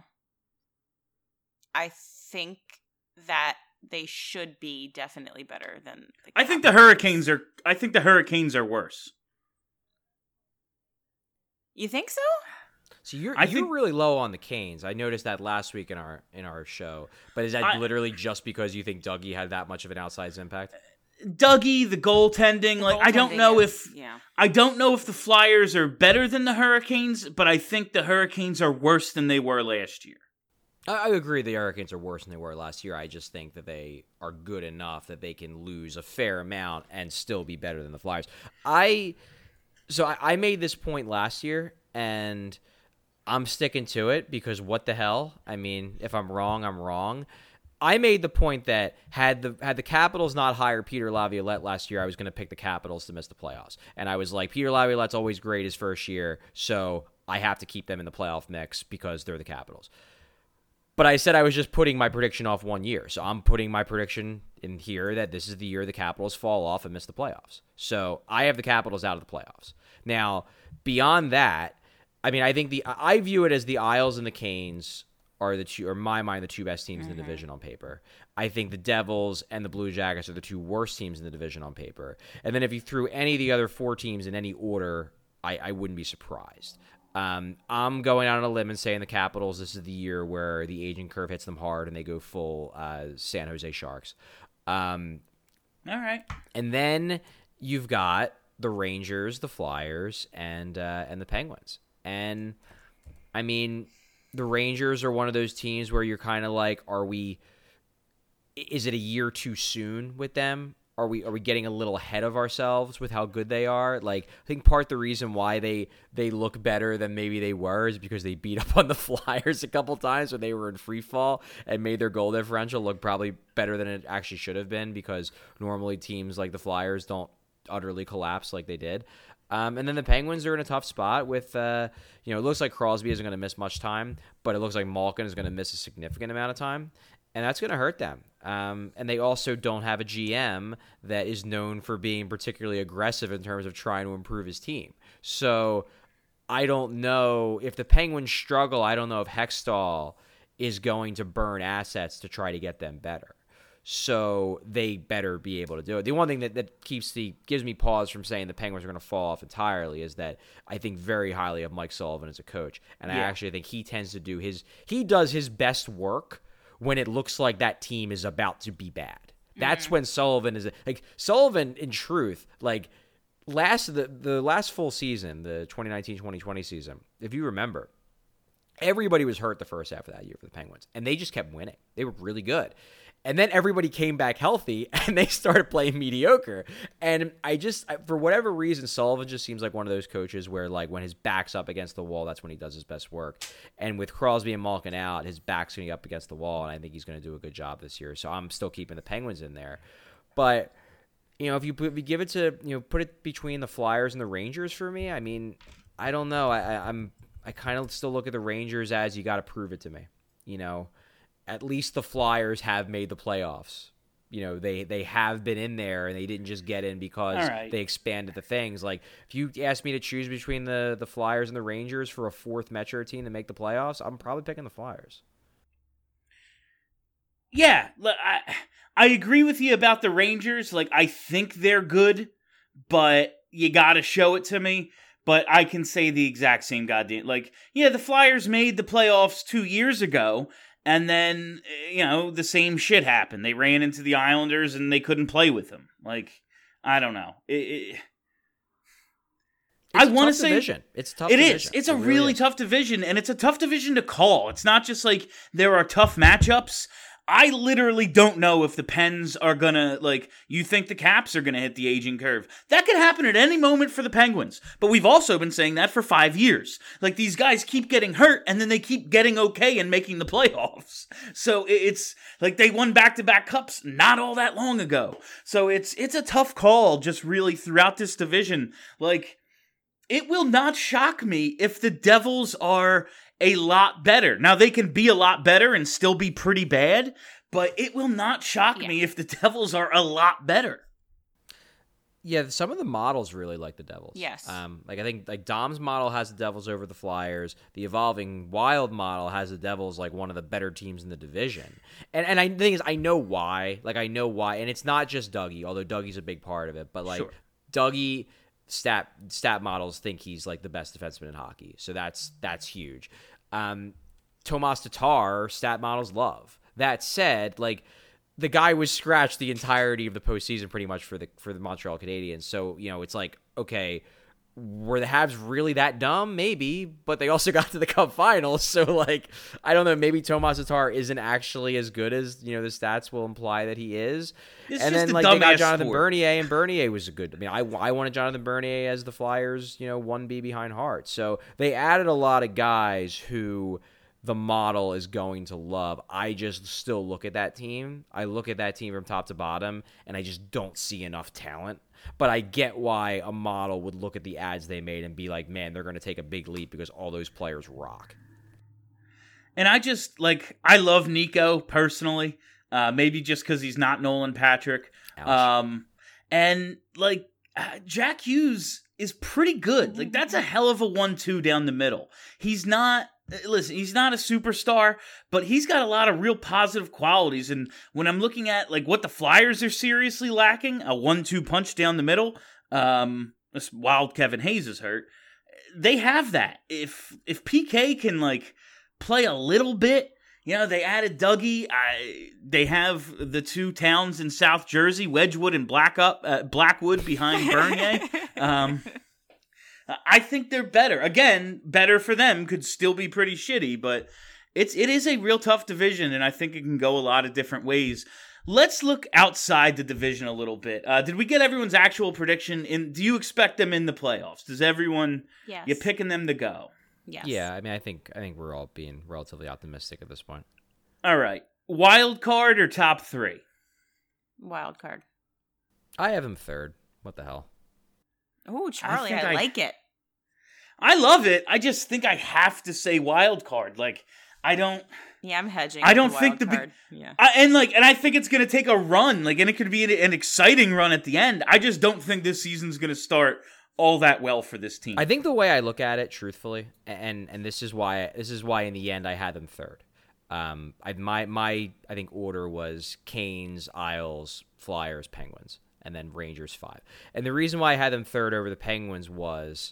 I think that they should be definitely better than the I think the Hurricanes are I think the Hurricanes are worse. You think so? So you're I you're think, really low on the Canes. I noticed that last week in our in our show. But is that I, literally just because you think Dougie had that much of an outsized impact? Dougie, the goaltending, The like I don't goaltending know is- if yeah. I don't know if the Flyers are better than the Hurricanes, but I think the Hurricanes are worse than they were last year. I, I agree the Hurricanes are worse than they were last year. I just think that they are good enough that they can lose a fair amount and still be better than the Flyers. I so I, I made this point last year, and I'm sticking to it because what the hell? I mean, if I'm wrong, I'm wrong. I made the point that had the had the Capitals not hired Peter Laviolette last year, I was going to pick the Capitals to miss the playoffs. And I was like, Peter Laviolette's always great his first year, so I have to keep them in the playoff mix because they're the Capitals. But I said I was just putting my prediction off one year. So I'm putting my prediction in here that this is the year the Capitals fall off and miss the playoffs. So I have the Capitals out of the playoffs. Now, beyond that, I mean, I think the I view it as the Isles and the Canes are the two, or in my mind, the two best teams mm-hmm. in the division on paper. I think the Devils and the Blue Jackets are the two worst teams in the division on paper. And then if you threw any of the other four teams in any order, I, I wouldn't be surprised. Um, I'm going out on a limb and saying the Capitals, this is the year where the aging curve hits them hard and they go full uh, San Jose Sharks. Um, All right. And then you've got the Rangers, the Flyers, and uh, and the Penguins. And, I mean, the Rangers are one of those teams where you're kind of like, are we – is it a year too soon with them? Are we are we getting a little ahead of ourselves with how good they are? Like, I think part the reason why they, they look better than maybe they were is because they beat up on the Flyers a couple times when they were in free fall and made their goal differential look probably better than it actually should have been, because normally teams like the Flyers don't utterly collapse like they did. Um, and then the Penguins are in a tough spot with, uh, you know, it looks like Crosby isn't going to miss much time, but it looks like Malkin is going to miss a significant amount of time, and that's going to hurt them. Um, and they also don't have a G M that is known for being particularly aggressive in terms of trying to improve his team. So I don't know if the Penguins struggle. I don't know if Hextall is going to burn assets to try to get them better. So they better be able to do it. The one thing that, that keeps the gives me pause from saying the Penguins are going to fall off entirely is that I think very highly of Mike Sullivan as a coach. And yeah. I actually think he tends to do his – he does his best work when it looks like that team is about to be bad. That's mm-hmm. when Sullivan is – like Sullivan, in truth, like last the, the last full season, the twenty nineteen twenty twenty season, if you remember, everybody was hurt the first half of that year for the Penguins. And they just kept winning. They were really good. And then everybody came back healthy, and they started playing mediocre. And I just, for whatever reason, Sullivan just seems like one of those coaches where, like, when his back's up against the wall, that's when he does his best work. And with Crosby and Malkin out, his back's going to be up against the wall, and I think he's going to do a good job this year. So I'm still keeping the Penguins in there. But, you know, if you, put, if you give it to, you know, put it between the Flyers and the Rangers for me, I mean, I don't know. I, I, I'm, I kind of still look at the Rangers as you got to prove it to me, you know. At least the Flyers have made the playoffs. You know, they, they have been in there, and they didn't just get in because right. they expanded the things. Like, if you ask me to choose between the, the Flyers and the Rangers for a fourth Metro team to make the playoffs, I'm probably picking the Flyers. Yeah, I, I agree with you about the Rangers. Like, I think they're good, but you got to show it to me. But I can say the exact same goddamn... Like, yeah, the Flyers made the playoffs two years ago, and then, you know, the same shit happened. They ran into the Islanders and they couldn't play with them. Like, I don't know. It, it, I want to say division. It's a tough. It division. is. It's it a really, really is. tough division, and it's a tough division to call. It's not just like there are tough matchups. I literally don't know if the Pens are gonna, like, you think the Caps are gonna hit the aging curve. That could happen at any moment for the Penguins. But we've also been saying that for five years. Like, these guys keep getting hurt, and then they keep getting okay and making the playoffs. So it's, like, they won back-to-back cups not all that long ago. So it's it's a tough call just really throughout this division. Like, it will not shock me if the Devils are a lot better. Now, they can be a lot better and still be pretty bad, but it will not shock yeah. me if the Devils are a lot better. Yeah, some of the models really like the Devils. Yes. Um, like I think like Dom's model has the Devils over the Flyers. The Evolving Wild model has the Devils like one of the better teams in the division. And and I the thing is, I know why. Like I know why, and it's not just Dougie, although Dougie's a big part of it. But like sure. Dougie, stat stat models think he's like the best defenseman in hockey. So that's that's huge. Um, Tomas Tatar, stat models love. That said, like the guy was scratched the entirety of the postseason pretty much for the for the Montreal Canadiens. So you know it's like okay. Were the Habs really that dumb? Maybe, but they also got to the Cup Finals. So, like, I don't know. Maybe Tomas Tatar isn't actually as good as you know the stats will imply that he is. It's and just then, a like, they got dumbass Jonathan sport. Bernier, and Bernier was a good. I mean, I I wanted Jonathan Bernier as the Flyers, you know, one B behind Hart. So they added a lot of guys who the model is going to love. I just still look at that team. I look at that team from top to bottom, and I just don't see enough talent. But I get why a model would look at the ads they made and be like, man, they're going to take a big leap because all those players rock. And I just, like, I love Nico personally. Uh, maybe just because he's not Nolan Patrick. Ouch. Um, and, like, uh, Jack Hughes is pretty good. Like, that's a hell of a one two down the middle. He's not... Listen, he's not a superstar, but he's got a lot of real positive qualities. And when I'm looking at like what the Flyers are seriously lacking, a one two punch down the middle, um, while Kevin Hayes is hurt, they have that. If if P K can like play a little bit, you know, they added Dougie. I, they have the two towns in South Jersey, Wedgwood and Black up, uh, Blackwood behind Bernier. Um, I think they're better. Again, better for them, could still be pretty shitty, but it's it is a real tough division, and I think it can go a lot of different ways. Let's look outside the division a little bit. Uh, did we get everyone's actual prediction? In do you expect them in the playoffs? Does everyone? Yes. You picking them to go? Yes. Yeah, I mean, I think I think we're all being relatively optimistic at this point. All right, wild card or top three? Wild card. I have him third. What the hell? Oh, Charlie, I, think I- like it. I love it. I just think I have to say wild card. Like I don't. Yeah, I'm hedging. I with don't the think wild the big- card. Yeah. I, and like, and I think it's going to take a run, like, and it could be an, an exciting run at the end. I just don't think this season's going to start all that well for this team. I think the way I look at it, truthfully, and and this is why this is why in the end I had them third. Um, I my my I think order was Canes, Isles, Flyers, Penguins, and then Rangers five. And the reason why I had them third over the Penguins was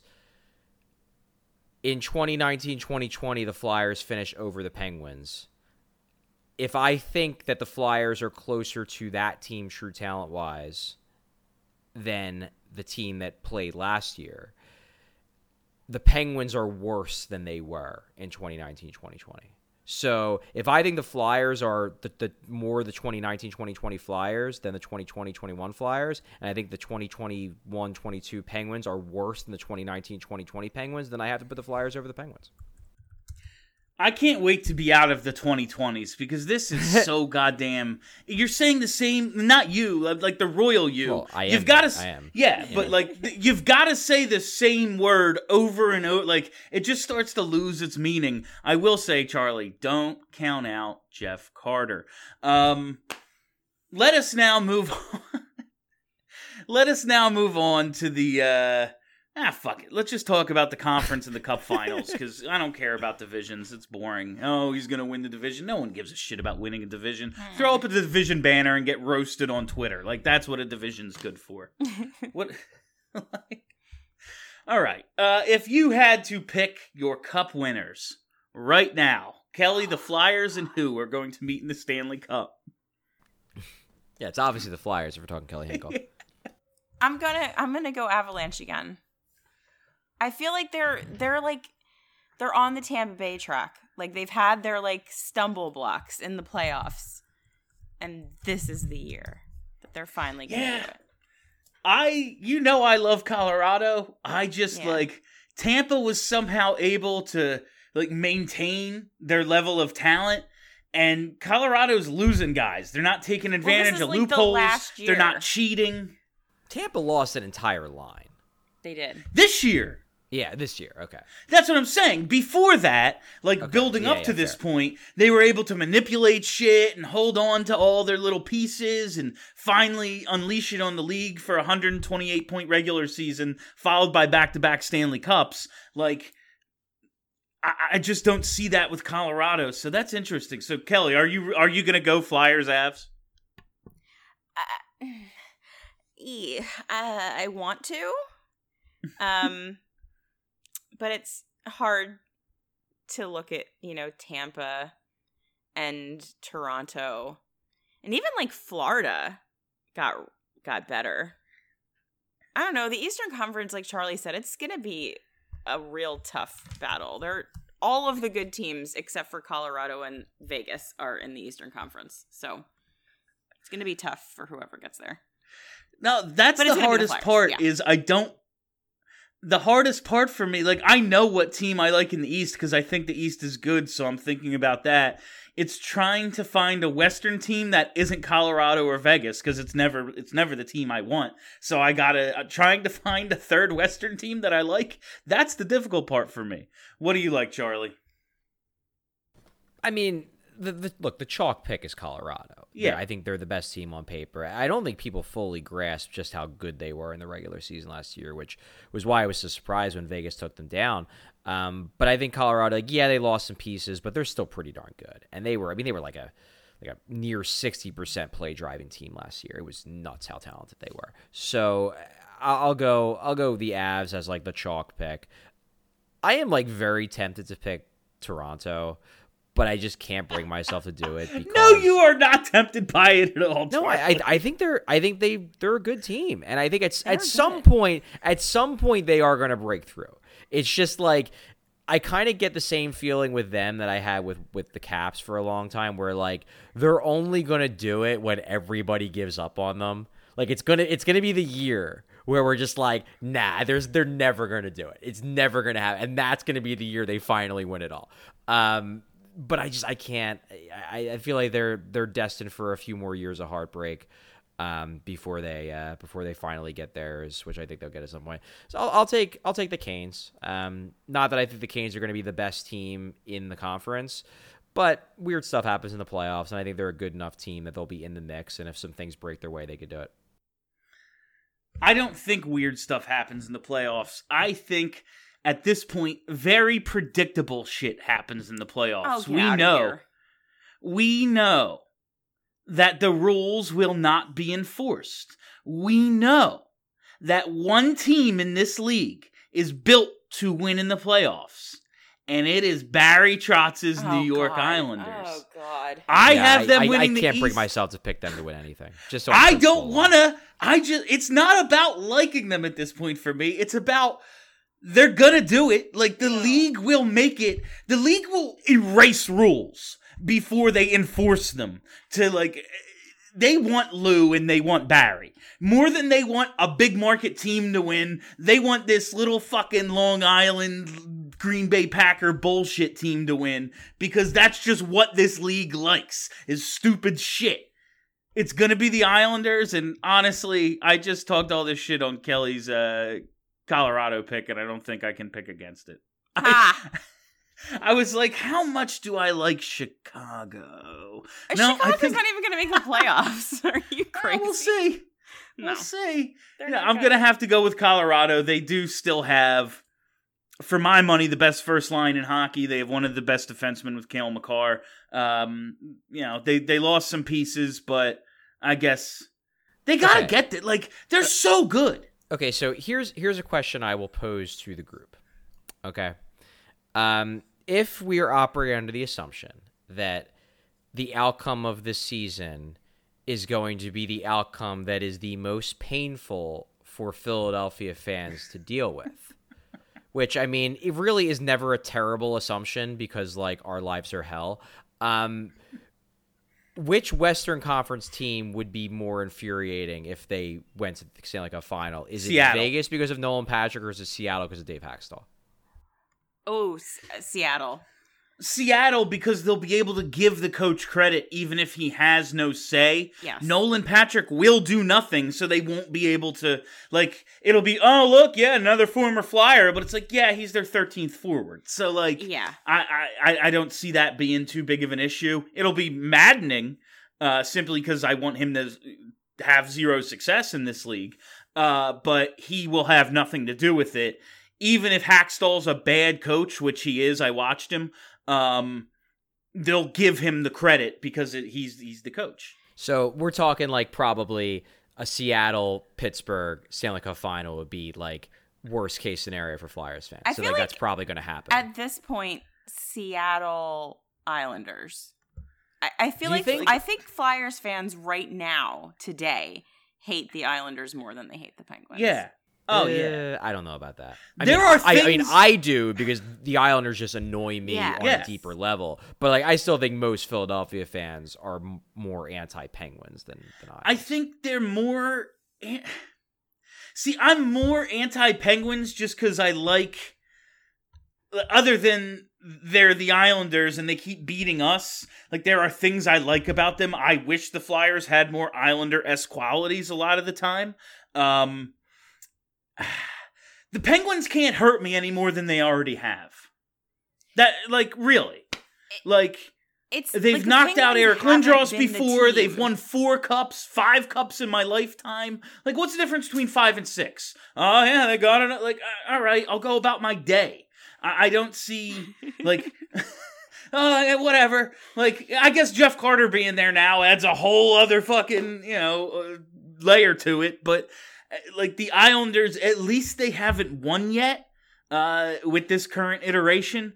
in twenty nineteen twenty twenty, the Flyers finished over the Penguins. If I think that the Flyers are closer to that team, true talent-wise, than the team that played last year, the Penguins are worse than they were in twenty nineteen twenty twenty. So if I think the Flyers are the, the more the twenty nineteen twenty twenty Flyers than the twenty twenty twenty-one Flyers, and I think the twenty twenty-one twenty-two Penguins are worse than the twenty nineteen twenty twenty Penguins, then I have to put the Flyers over the Penguins. I can't wait to be out of the twenty twenties because this is so goddamn. You're saying the same, not you, like the royal you. Well, I am. You've got to, I am. yeah, but like you've got to say the same word over and over. Like it just starts to lose its meaning. I will say, Charlie, don't count out Jeff Carter. Um, let us now move. on. Let us now move on to the. Uh, Ah, fuck it. Let's just talk about the conference and the cup finals, because I don't care about divisions. It's boring. Oh, he's going to win the division. No one gives a shit about winning a division. Throw up a division banner and get roasted on Twitter. Like, that's what a division's good for. What? Like, all right. Uh, if you had to pick your cup winners right now, Kelly, the Flyers, and who are going to meet in the Stanley Cup? Yeah, it's obviously the Flyers if we're talking Kelly Hinkle. I'm gonna I'm gonna go Avalanche again. I feel like they're they're like they're on the Tampa Bay track. Like they've had their like stumble blocks in the playoffs, and this is the year that they're finally gonna Yeah. do it. I, you know, I love Colorado. I just Yeah. like Tampa was somehow able to like maintain their level of talent, and Colorado's losing guys. They're not taking advantage is, of like, the loopholes. last They're year. not cheating. Tampa lost an entire line. They did. This year, Yeah, this year. Okay. that's what I'm saying. Before that, like Okay. building Yeah, up yeah, to this fair. point, they were able to manipulate shit and hold on to all their little pieces and finally unleash it on the league for a one hundred twenty-eight point regular season, followed by back-to-back Stanley Cups. Like, I, I just don't see that with Colorado, so that's interesting. So, Kelly, are you are you gonna go Flyers, Avs? Uh, e- uh, I want to, Um, but it's hard to look at, you know, Tampa and Toronto, and even like Florida got got better. I don't know. The Eastern Conference, like Charlie said, it's going to be a real tough battle. They're all of the good teams except for Colorado and Vegas are in the Eastern Conference. So it's going to be tough for whoever gets there. No, that's But it's the gonna be the hardest Flyers, part yeah. is I don't the hardest part for me, like I know what team I like in the East because I think the East is good, so I'm thinking about that. It's trying to find a Western team that isn't Colorado or Vegas because it's never it's never the team I want. So I gotta uh, trying to find a third Western team that I like. That's the difficult part for me. What do you like, Charlie? I mean, the, the look, the chalk pick is Colorado. Yeah. They're- I think they're the best team on paper. I don't think people fully grasp just how good they were in the regular season last year, which was why I was so surprised when Vegas took them down. Um, but I think Colorado, like, yeah, they lost some pieces, but they're still pretty darn good. And they were, I mean, they were like a like a near sixty percent play driving team last year. It was nuts how talented they were. So I'll I'll go, I'll go the Avs as like the chalk pick. I am like very tempted to pick Toronto, but I just can't bring myself to do it. Because, No, you are not tempted by it at all. no, I, I I think they're I think they they're a good team, and I think it's They're at some good. point at some point they are going to break through. It's just like I kind of get the same feeling with them that I had with with the Caps for a long time, where like they're only going to do it when everybody gives up on them. Like it's gonna it's gonna be the year where we're just like, nah, there's they're never gonna do it. It's never gonna happen, and that's gonna be the year they finally win it all. Um, but I just I can't. I, I feel like they're they're destined for a few more years of heartbreak um, before they uh, before they finally get theirs, which I think they'll get at some point. So I'll, I'll take I'll take the Canes. Um, not that I think the Canes are going to be the best team in the conference, but weird stuff happens in the playoffs, and I think they're a good enough team that they'll be in the mix. And if some things break their way, they could do it. I don't think weird stuff happens in the playoffs. I think at this point, very predictable shit happens in the playoffs. Oh, get we outta know, here. we know that the rules will not be enforced. We know that one team in this league is built to win in the playoffs, and it is Barry Trotz's Oh, New York God. Islanders. Oh, God. I Yeah, have them I, winning I, I the can't bring East. myself to pick them to win anything. Just so I I'm don't sensible. want to. I just, it's not about liking them at this point for me. It's about they're going to do it. Like the league will make it. The league will erase rules before they enforce them to like, they want Lou and they want Barry. More than they want a big market team to win, they want this little fucking Long Island Green Bay Packer bullshit team to win because that's just what this league likes, is stupid shit. It's gonna be the Islanders, and honestly, I just talked all this shit on Kelly's uh, Colorado pick, and I don't think I can pick against it. I, Ah. I was like, how much do I like Chicago? No, Chicago's I think not even going to make the playoffs. Are you crazy? we'll see. No. We'll see. They're Yeah, not I'm gonna. gonna have to go with Colorado. They do still have, for my money, the best first line in hockey. They have one of the best defensemen with Cale Makar. Um, you know, they they lost some pieces, but I guess they gotta Okay. get it. Like they're so good. Okay, so here's here's a question I will pose to the group. Okay, um, if we are operating under the assumption that the outcome of this season is going to be the outcome that is the most painful for Philadelphia fans to deal with, which, I mean, it really is never a terrible assumption because, like, our lives are hell. Um, which Western Conference team would be more infuriating if they went to the Stanley Cup final? Is it Seattle. Vegas because of Nolan Patrick, or is it Seattle because of Dave Haxtell? Oh, S- Seattle. Seattle, because they'll be able to give the coach credit even if he has no say. Yes. Nolan Patrick will do nothing, so they won't be able to, like, it'll be, oh, look, yeah, another former Flyer, but it's like, yeah, he's their thirteenth forward. So, like, Yeah. I, I, I don't see that being too big of an issue. It'll be maddening, uh, simply because I want him to have zero success in this league, uh, but he will have nothing to do with it. Even if Hackstall's a bad coach, which he is, I watched him, um, they'll give him the credit because it, he's he's the coach. So we're talking like probably a Seattle Pittsburgh Stanley Cup final would be like worst case scenario for Flyers fans. I so feel like, like that's probably going to happen. At this point, Seattle Islanders. I, I feel Do you like think- I think Flyers fans right now, today, hate the Islanders more than they hate the Penguins. Yeah. Oh, Uh, yeah. I don't know about that. I There mean, are I, I mean, things- I do because the Islanders just annoy me Yeah. on Yes. a deeper level. But like, I still think most Philadelphia fans are m- more anti-Penguins than, than I. I think they're more. an- See, I'm more anti-Penguins just because I like. Other than they're the Islanders and they keep beating us, like there are things I like about them. I wish the Flyers had more Islander-esque qualities a lot of the time. Um, the Penguins can't hurt me any more than they already have. That, like, really, like. It's They've like, the knocked out Penguins Eric haven't Lindros been the before. team. They've won four cups, five cups in my lifetime. Like, what's the difference between five and six? Oh, yeah, they got it. Like, all right, I'll go about my day. I, I don't see, like, uh, whatever. Like, I guess Jeff Carter being there now adds a whole other fucking, you know, uh, layer to it. But, uh, like, the Islanders, at least they haven't won yet uh, with this current iteration.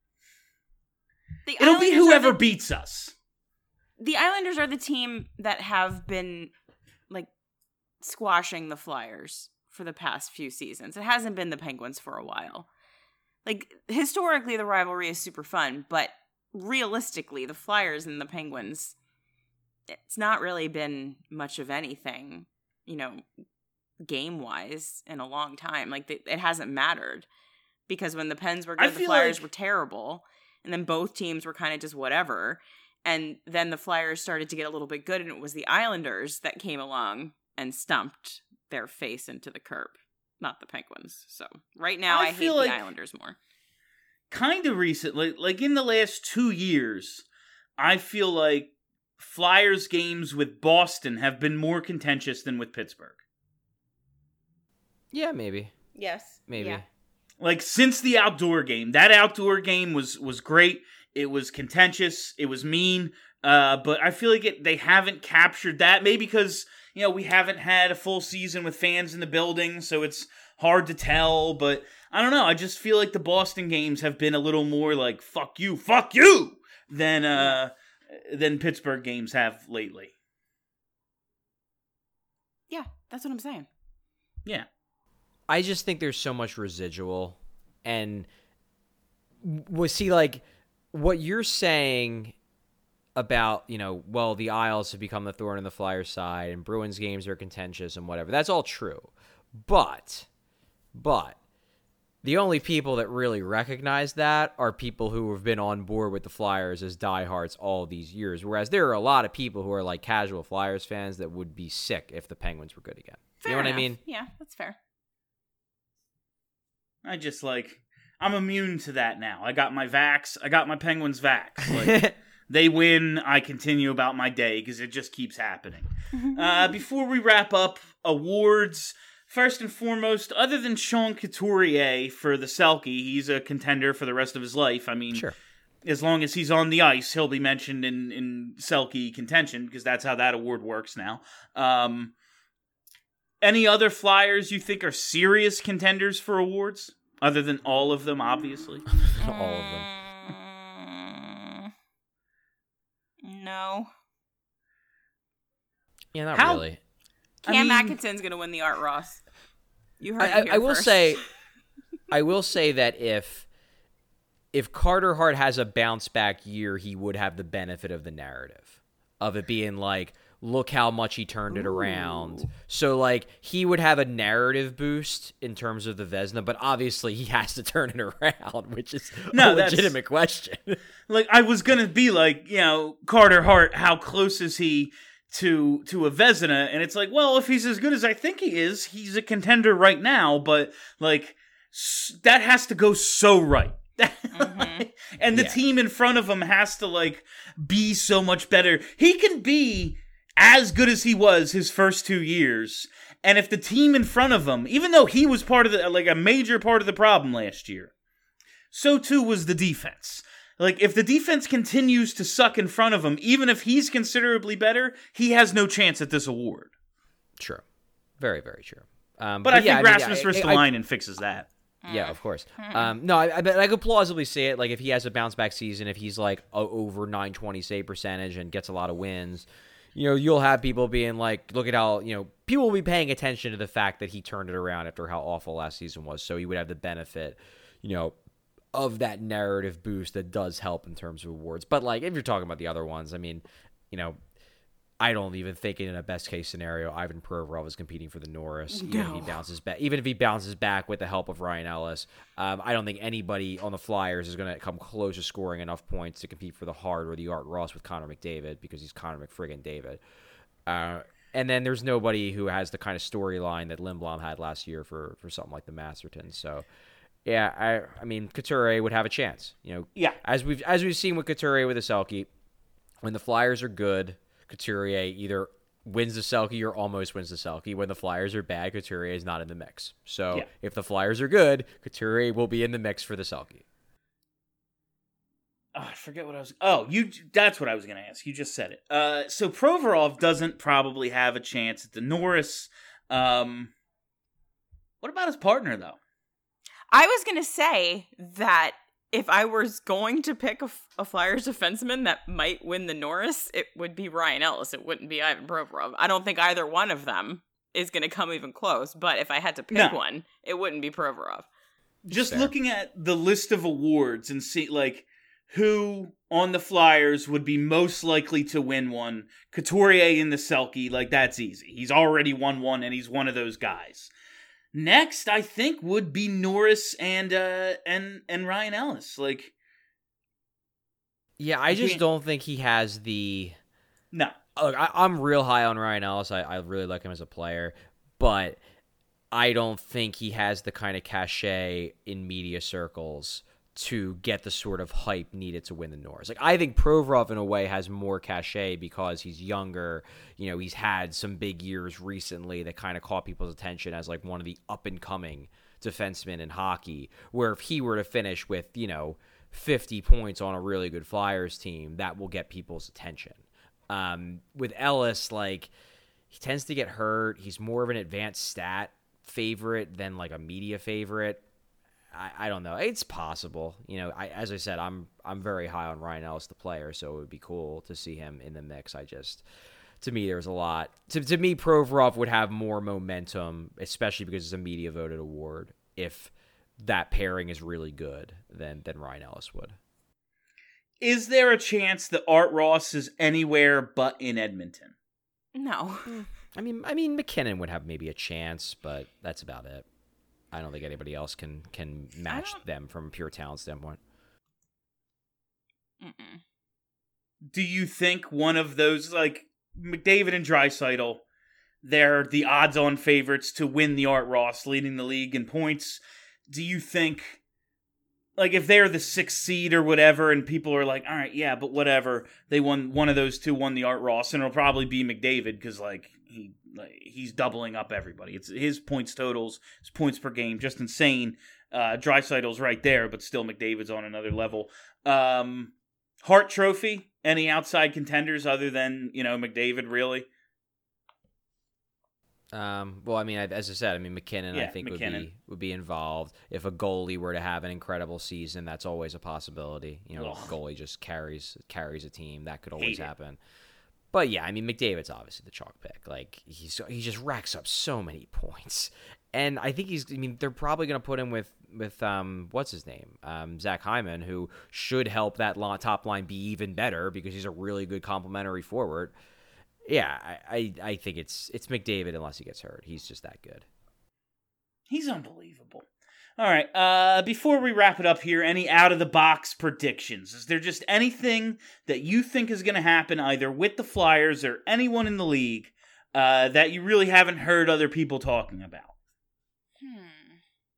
The It'll be Islanders are whoever the- beats us. The Islanders are the team that have been like squashing the Flyers for the past few seasons. It hasn't been the Penguins for a while. Like historically the rivalry is super fun, but realistically the Flyers and the Penguins, it's not really been much of anything, you know, game-wise in a long time. Like they, it hasn't mattered because when the Pens were I good, the feel Flyers like- were terrible. And then both teams were kind of just whatever. And then the Flyers started to get a little bit good, and it was the Islanders that came along and stumped their face into the curb, not the Penguins. So right now, I I, hate feel like- the Islanders more. Kind of recently, like in the last two years, I feel like Flyers games with Boston have been more contentious than with Pittsburgh. Yeah, maybe. Yes. Maybe. Yeah. Like since the outdoor game, that outdoor game was was great. It was contentious. It was mean. Uh, but I feel like it, they haven't captured that. Maybe because you know we haven't had a full season with fans in the building, so it's hard to tell. But I don't know. I just feel like the Boston games have been a little more like "fuck you, fuck you" than uh than Pittsburgh games have lately. Yeah, that's what I'm saying. Yeah. I just think there's so much residual, and we see like what you're saying about, you know, well, the Isles have become the thorn in the Flyers' side, and Bruins games are contentious and whatever. That's all true, but, but the only people that really recognize that are people who have been on board with the Flyers as diehards all these years. Whereas there are a lot of people who are like casual Flyers fans that would be sick if the Penguins were good again. Fair you know what enough. I mean? Yeah, that's fair. I just like I'm immune to that now. I got my vax. I got my Penguins vax. Like, they win. I continue about my day because it just keeps happening. Uh, before we wrap up, awards. First and foremost, other than Sean Couturier for the Selke, he's a contender for the rest of his life. I mean, Sure. as long as he's on the ice, he'll be mentioned in, in Selke contention because that's how that award works now. Um, any other Flyers you think are serious contenders for awards? Other than all of them, obviously. all of them. Mm, no. Yeah, not How- really. Cam I mean- Atkinson's going to win the Art Ross. You heard I, it I, here I will first. say, I will say that if if Carter Hart has a bounce back year, he would have the benefit of the narrative of it being like, look how much he turned it around. So like he would have a narrative boost in terms of the Vezina, but obviously he has to turn it around, which is No, a that's- legitimate question. Like, I was gonna be like, you know, Carter Hart, how close is he to to a Vezina? And it's like, well, if he's as good as I think he is, he's a contender right now, but, like, s- that has to go so right. Mm-hmm. And the Yeah. team in front of him has to, like, be so much better. He can be as good as he was his first two years. And if the team in front of him, even though he was part of the, like, a major part of the problem last year, so too was the defense. Like, if the defense continues to suck in front of him, even if he's considerably better, he has no chance at this award. True. Very, very true. Um, but, but I yeah, think I mean, Rasmus I- I- Ristolainen fixes that. Yeah, of course. Um, no, I, I, but I could plausibly see it. Like, if he has a bounce back season, if he's like a, over nine twenty save percentage and gets a lot of wins, you know, you'll have people being like, look at how, you know, people will be paying attention to the fact that he turned it around after how awful last season was. So he would have the benefit, you know, of that narrative boost that does help in terms of awards. But like, if you're talking about the other ones, I mean, you know, I don't even think in a best case scenario, Ivan Provorov is competing for the Norris. Even if he bounces back, even if he bounces back with the help of Ryan Ellis, um, I don't think anybody on the Flyers is going to come close to scoring enough points to compete for the Hart or the Art Ross with Connor McDavid because he's Connor McFriggin David. Uh, and then there's nobody who has the kind of storyline that Lindblom had last year for for something like the Masterton. So. Yeah, I I mean Couturier would have a chance. You know, Yeah. as we've as we've seen with Couturier with the Selke, when the Flyers are good, Couturier either wins the Selke or almost wins the Selke. When the Flyers are bad, Couturier is not in the mix. So Yeah. if the Flyers are good, Couturier will be in the mix for the Selke. Oh, I forget what I was. Oh, you. That's what I was going to ask. You just said it. Uh, so Provorov doesn't probably have a chance at the Norris. Um, what about his partner though? I was going to say that if I was going to pick a, a Flyers defenseman that might win the Norris, it would be Ryan Ellis. It wouldn't be Ivan Provorov. I don't think either one of them is going to come even close. But if I had to pick No. one, it wouldn't be Provorov. Just Fair. looking at the list of awards and see like who on the Flyers would be most likely to win one. Couturier in the Selke, like that's easy. He's already won one, and he's one of those guys. Next, I think would be Norris and uh and and Ryan Ellis. Like, Yeah, I just can't- don't think he has the. no, Look, I, I'm real high on Ryan Ellis. I, I really like him as a player, but I don't think he has the kind of cachet in media circles to get the sort of hype needed to win the Norris. Like, I think Provorov in a way has more cachet because he's younger. You know, he's had some big years recently that kind of caught people's attention as like one of the up and coming defensemen in hockey. Where if he were to finish with, you know, fifty points on a really good Flyers team, that will get people's attention. Um, with Ellis, like, he tends to get hurt. He's more of an advanced stat favorite than like a media favorite. I, I don't know. It's possible. You know, I, as I said, I'm I'm very high on Ryan Ellis, the player, so it would be cool to see him in the mix. I just, to me, there's a lot. To, to me, Provorov would have more momentum, especially because it's a media voted award, if that pairing is really good than, than Ryan Ellis would. is there a chance that Art Ross is anywhere but in Edmonton? No. I mean, I mean, McKinnon would have maybe a chance, but that's about it. I don't think anybody else can can match them from a pure talent standpoint. Mm-mm. Do you think one of those, like McDavid and Draisaitl, they're the odds-on favorites to win the Art Ross, leading the league in points? Do you think, like, if they're the sixth seed or whatever, and people are like, all right, yeah, but whatever, they won, one of those two won the Art Ross, and it'll probably be McDavid because, like, he like, he's doubling up everybody. It's his points totals, his points per game, just insane. Uh, Draisaitl's right there, but still McDavid's on another level. Um, Hart Trophy, any outside contenders other than, you know, McDavid, really? Um, well, I mean, as I said, I mean, McKinnon, Yeah, I think, McKinnon. would be would be involved. If a goalie were to have an incredible season, that's always a possibility. You know, Ugh. a goalie just carries carries a team. That could Hate always it. happen. But yeah, I mean, McDavid's obviously the chalk pick. Like, he's he just racks up so many points, and I think he's. I mean, they're probably going to put him with with um what's his name, um Zach Hyman, who should help that lo- top line be even better because he's a really good complementary forward. Yeah, I, I, I think it's it's McDavid unless he gets hurt. He's just that good. He's unbelievable. All right, uh, before we wrap it up here, any out-of-the-box predictions? Is there just anything that you think is going to happen either with the Flyers or anyone in the league uh, that you really haven't heard other people talking about? Hmm.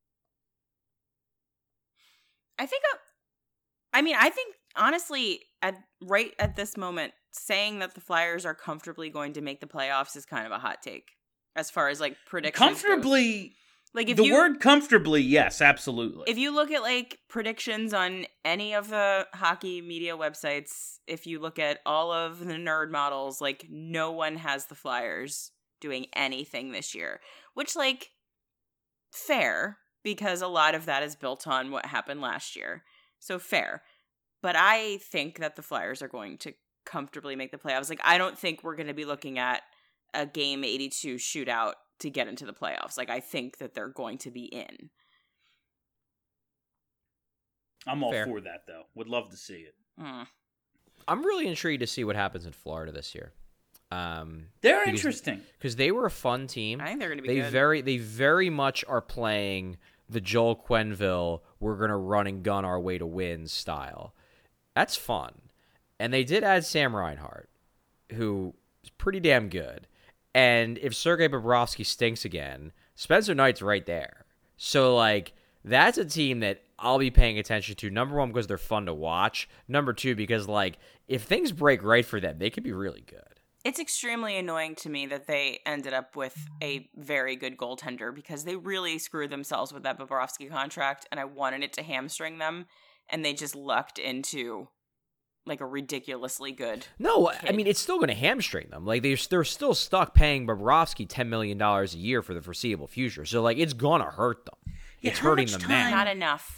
I think, uh, I mean, I think, honestly, at right at this moment, saying that the Flyers are comfortably going to make the playoffs is kind of a hot take. As far as, like, predictions goes. Comfortably, Like, if the you, word comfortably, yes, absolutely. if you look at, like, predictions on any of the hockey media websites, if you look at all of the nerd models, like, no one has the Flyers doing anything this year. Which, like, fair, because a lot of that is built on what happened last year. So fair. But I think that the Flyers are going to comfortably make the playoffs. Like, I don't think we're going to be looking at a game eighty-two shootout to get into the playoffs. Like, I think that they're going to be in. I'm all Fair. for that, though. Would love to see it. Mm. I'm really intrigued to see what happens in Florida this year. Um, They're because, interesting. because they were a fun team. I think they're going to be They good. very, they very much are playing the Joel Quenneville, we're gonna run and gun our way to win style. That's fun, and they did add Sam Reinhart, who is pretty damn good. And if Sergei Bobrovsky stinks again, Spencer Knight's right there. So like that's a team that I'll be paying attention to. Number one, because they're fun to watch. Number two, because like if things break right for them, they could be really good. It's extremely annoying to me that they ended up with a very good goaltender, because they really screwed themselves with that Bobrovsky contract, and I wanted it to hamstring them, and they just lucked into like a ridiculously good No, kid. I mean it's still going to hamstring them. Like they're they're still stuck paying Bobrovsky ten million dollars a year for the foreseeable future. So like it's gonna hurt them. Yeah, it's how hurting much them time- now. Not enough.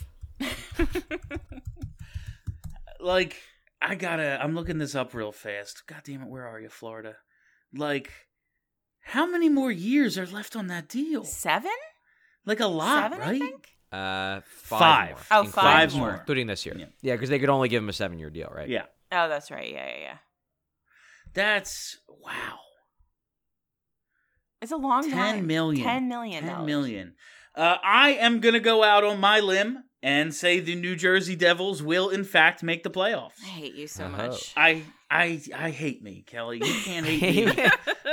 Like, I gotta, I'm looking this up real fast. God damn it, where are you, Florida? Like, how many more years are left on that deal? Seven? Like a lot, Seven, right? I think? Uh, five. Five. More, Oh, including- five more. including this year. Yeah. Yeah, because they could only give him a seven-year deal, right? Yeah. Oh, that's right. Yeah, yeah, yeah. That's, wow. It's a long time. Ten million. Ten million. Ten dollars. million. Uh, I am gonna go out on my limb and say the New Jersey Devils will, in fact, make the playoffs. I hate you so Oh. much. I, I, I hate me, Kelly. You can't hate me.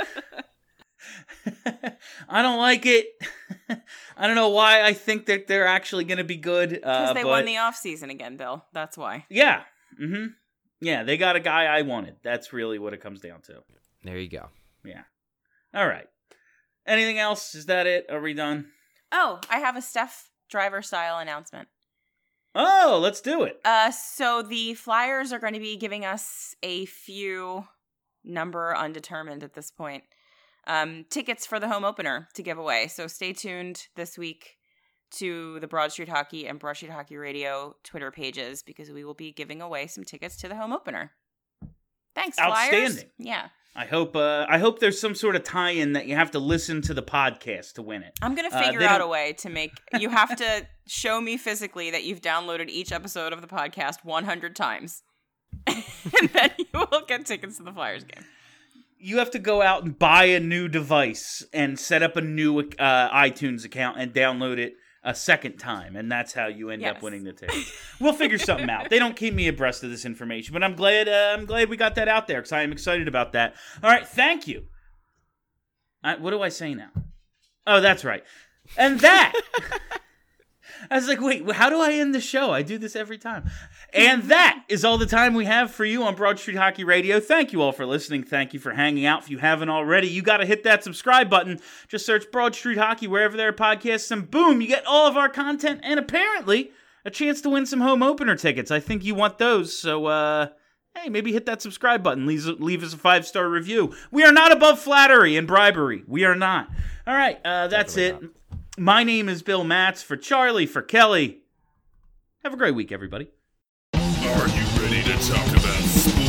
I don't like it. I don't know why I think that they're actually going to be good. Because Uh, they but won the offseason again, Bill. That's why. yeah, mm-hmm. yeah, they got a guy I wanted. That's really what it comes down to. There you go. Yeah. All right. Anything else? Is that it? Are we done? Oh, I have a Steph Driver style announcement. Oh, let's do it. Uh, so the Flyers are going to be giving us a few, number undetermined at this point, um, tickets for the home opener to give away. So stay tuned this week to the Broad Street Hockey and Broad Street Hockey Radio Twitter pages, because we will be giving away some tickets to the home opener. Thanks, Flyers. Outstanding. Yeah. I hope. Uh, I hope there's some sort of tie-in that you have to listen to the podcast to win it. I'm going to Uh, figure they out don't- a way to make, you have to show me physically that you've downloaded each episode of the podcast one hundred times. And then you will get tickets to the Flyers game. You have to go out and buy a new device and set up a new uh, iTunes account and download it a second time, and that's how you end Yes. up winning the tickets. We'll figure something out. They don't keep me abreast of this information, but I'm glad. Uh, I'm glad we got that out there, because I am excited about that. All right, thank you. I, what do I say now? Oh, that's right. And that. I was like, wait, how do I end the show? I do this every time. And that is all the time we have for you on Broad Street Hockey Radio. Thank you all for listening. Thank you for hanging out. If you haven't already, you got to hit that subscribe button. Just search Broad Street Hockey wherever there are podcasts, and boom, you get all of our content, and apparently a chance to win some home opener tickets. I think you want those, so uh, hey, maybe hit that subscribe button. Leave, leave us a five-star review. We are not above flattery and bribery. We are not. All right, uh, that's Definitely it. My name is Bill Matz. For Charlie, for Kelly. Have a great week, everybody. Are you ready to talk about sports?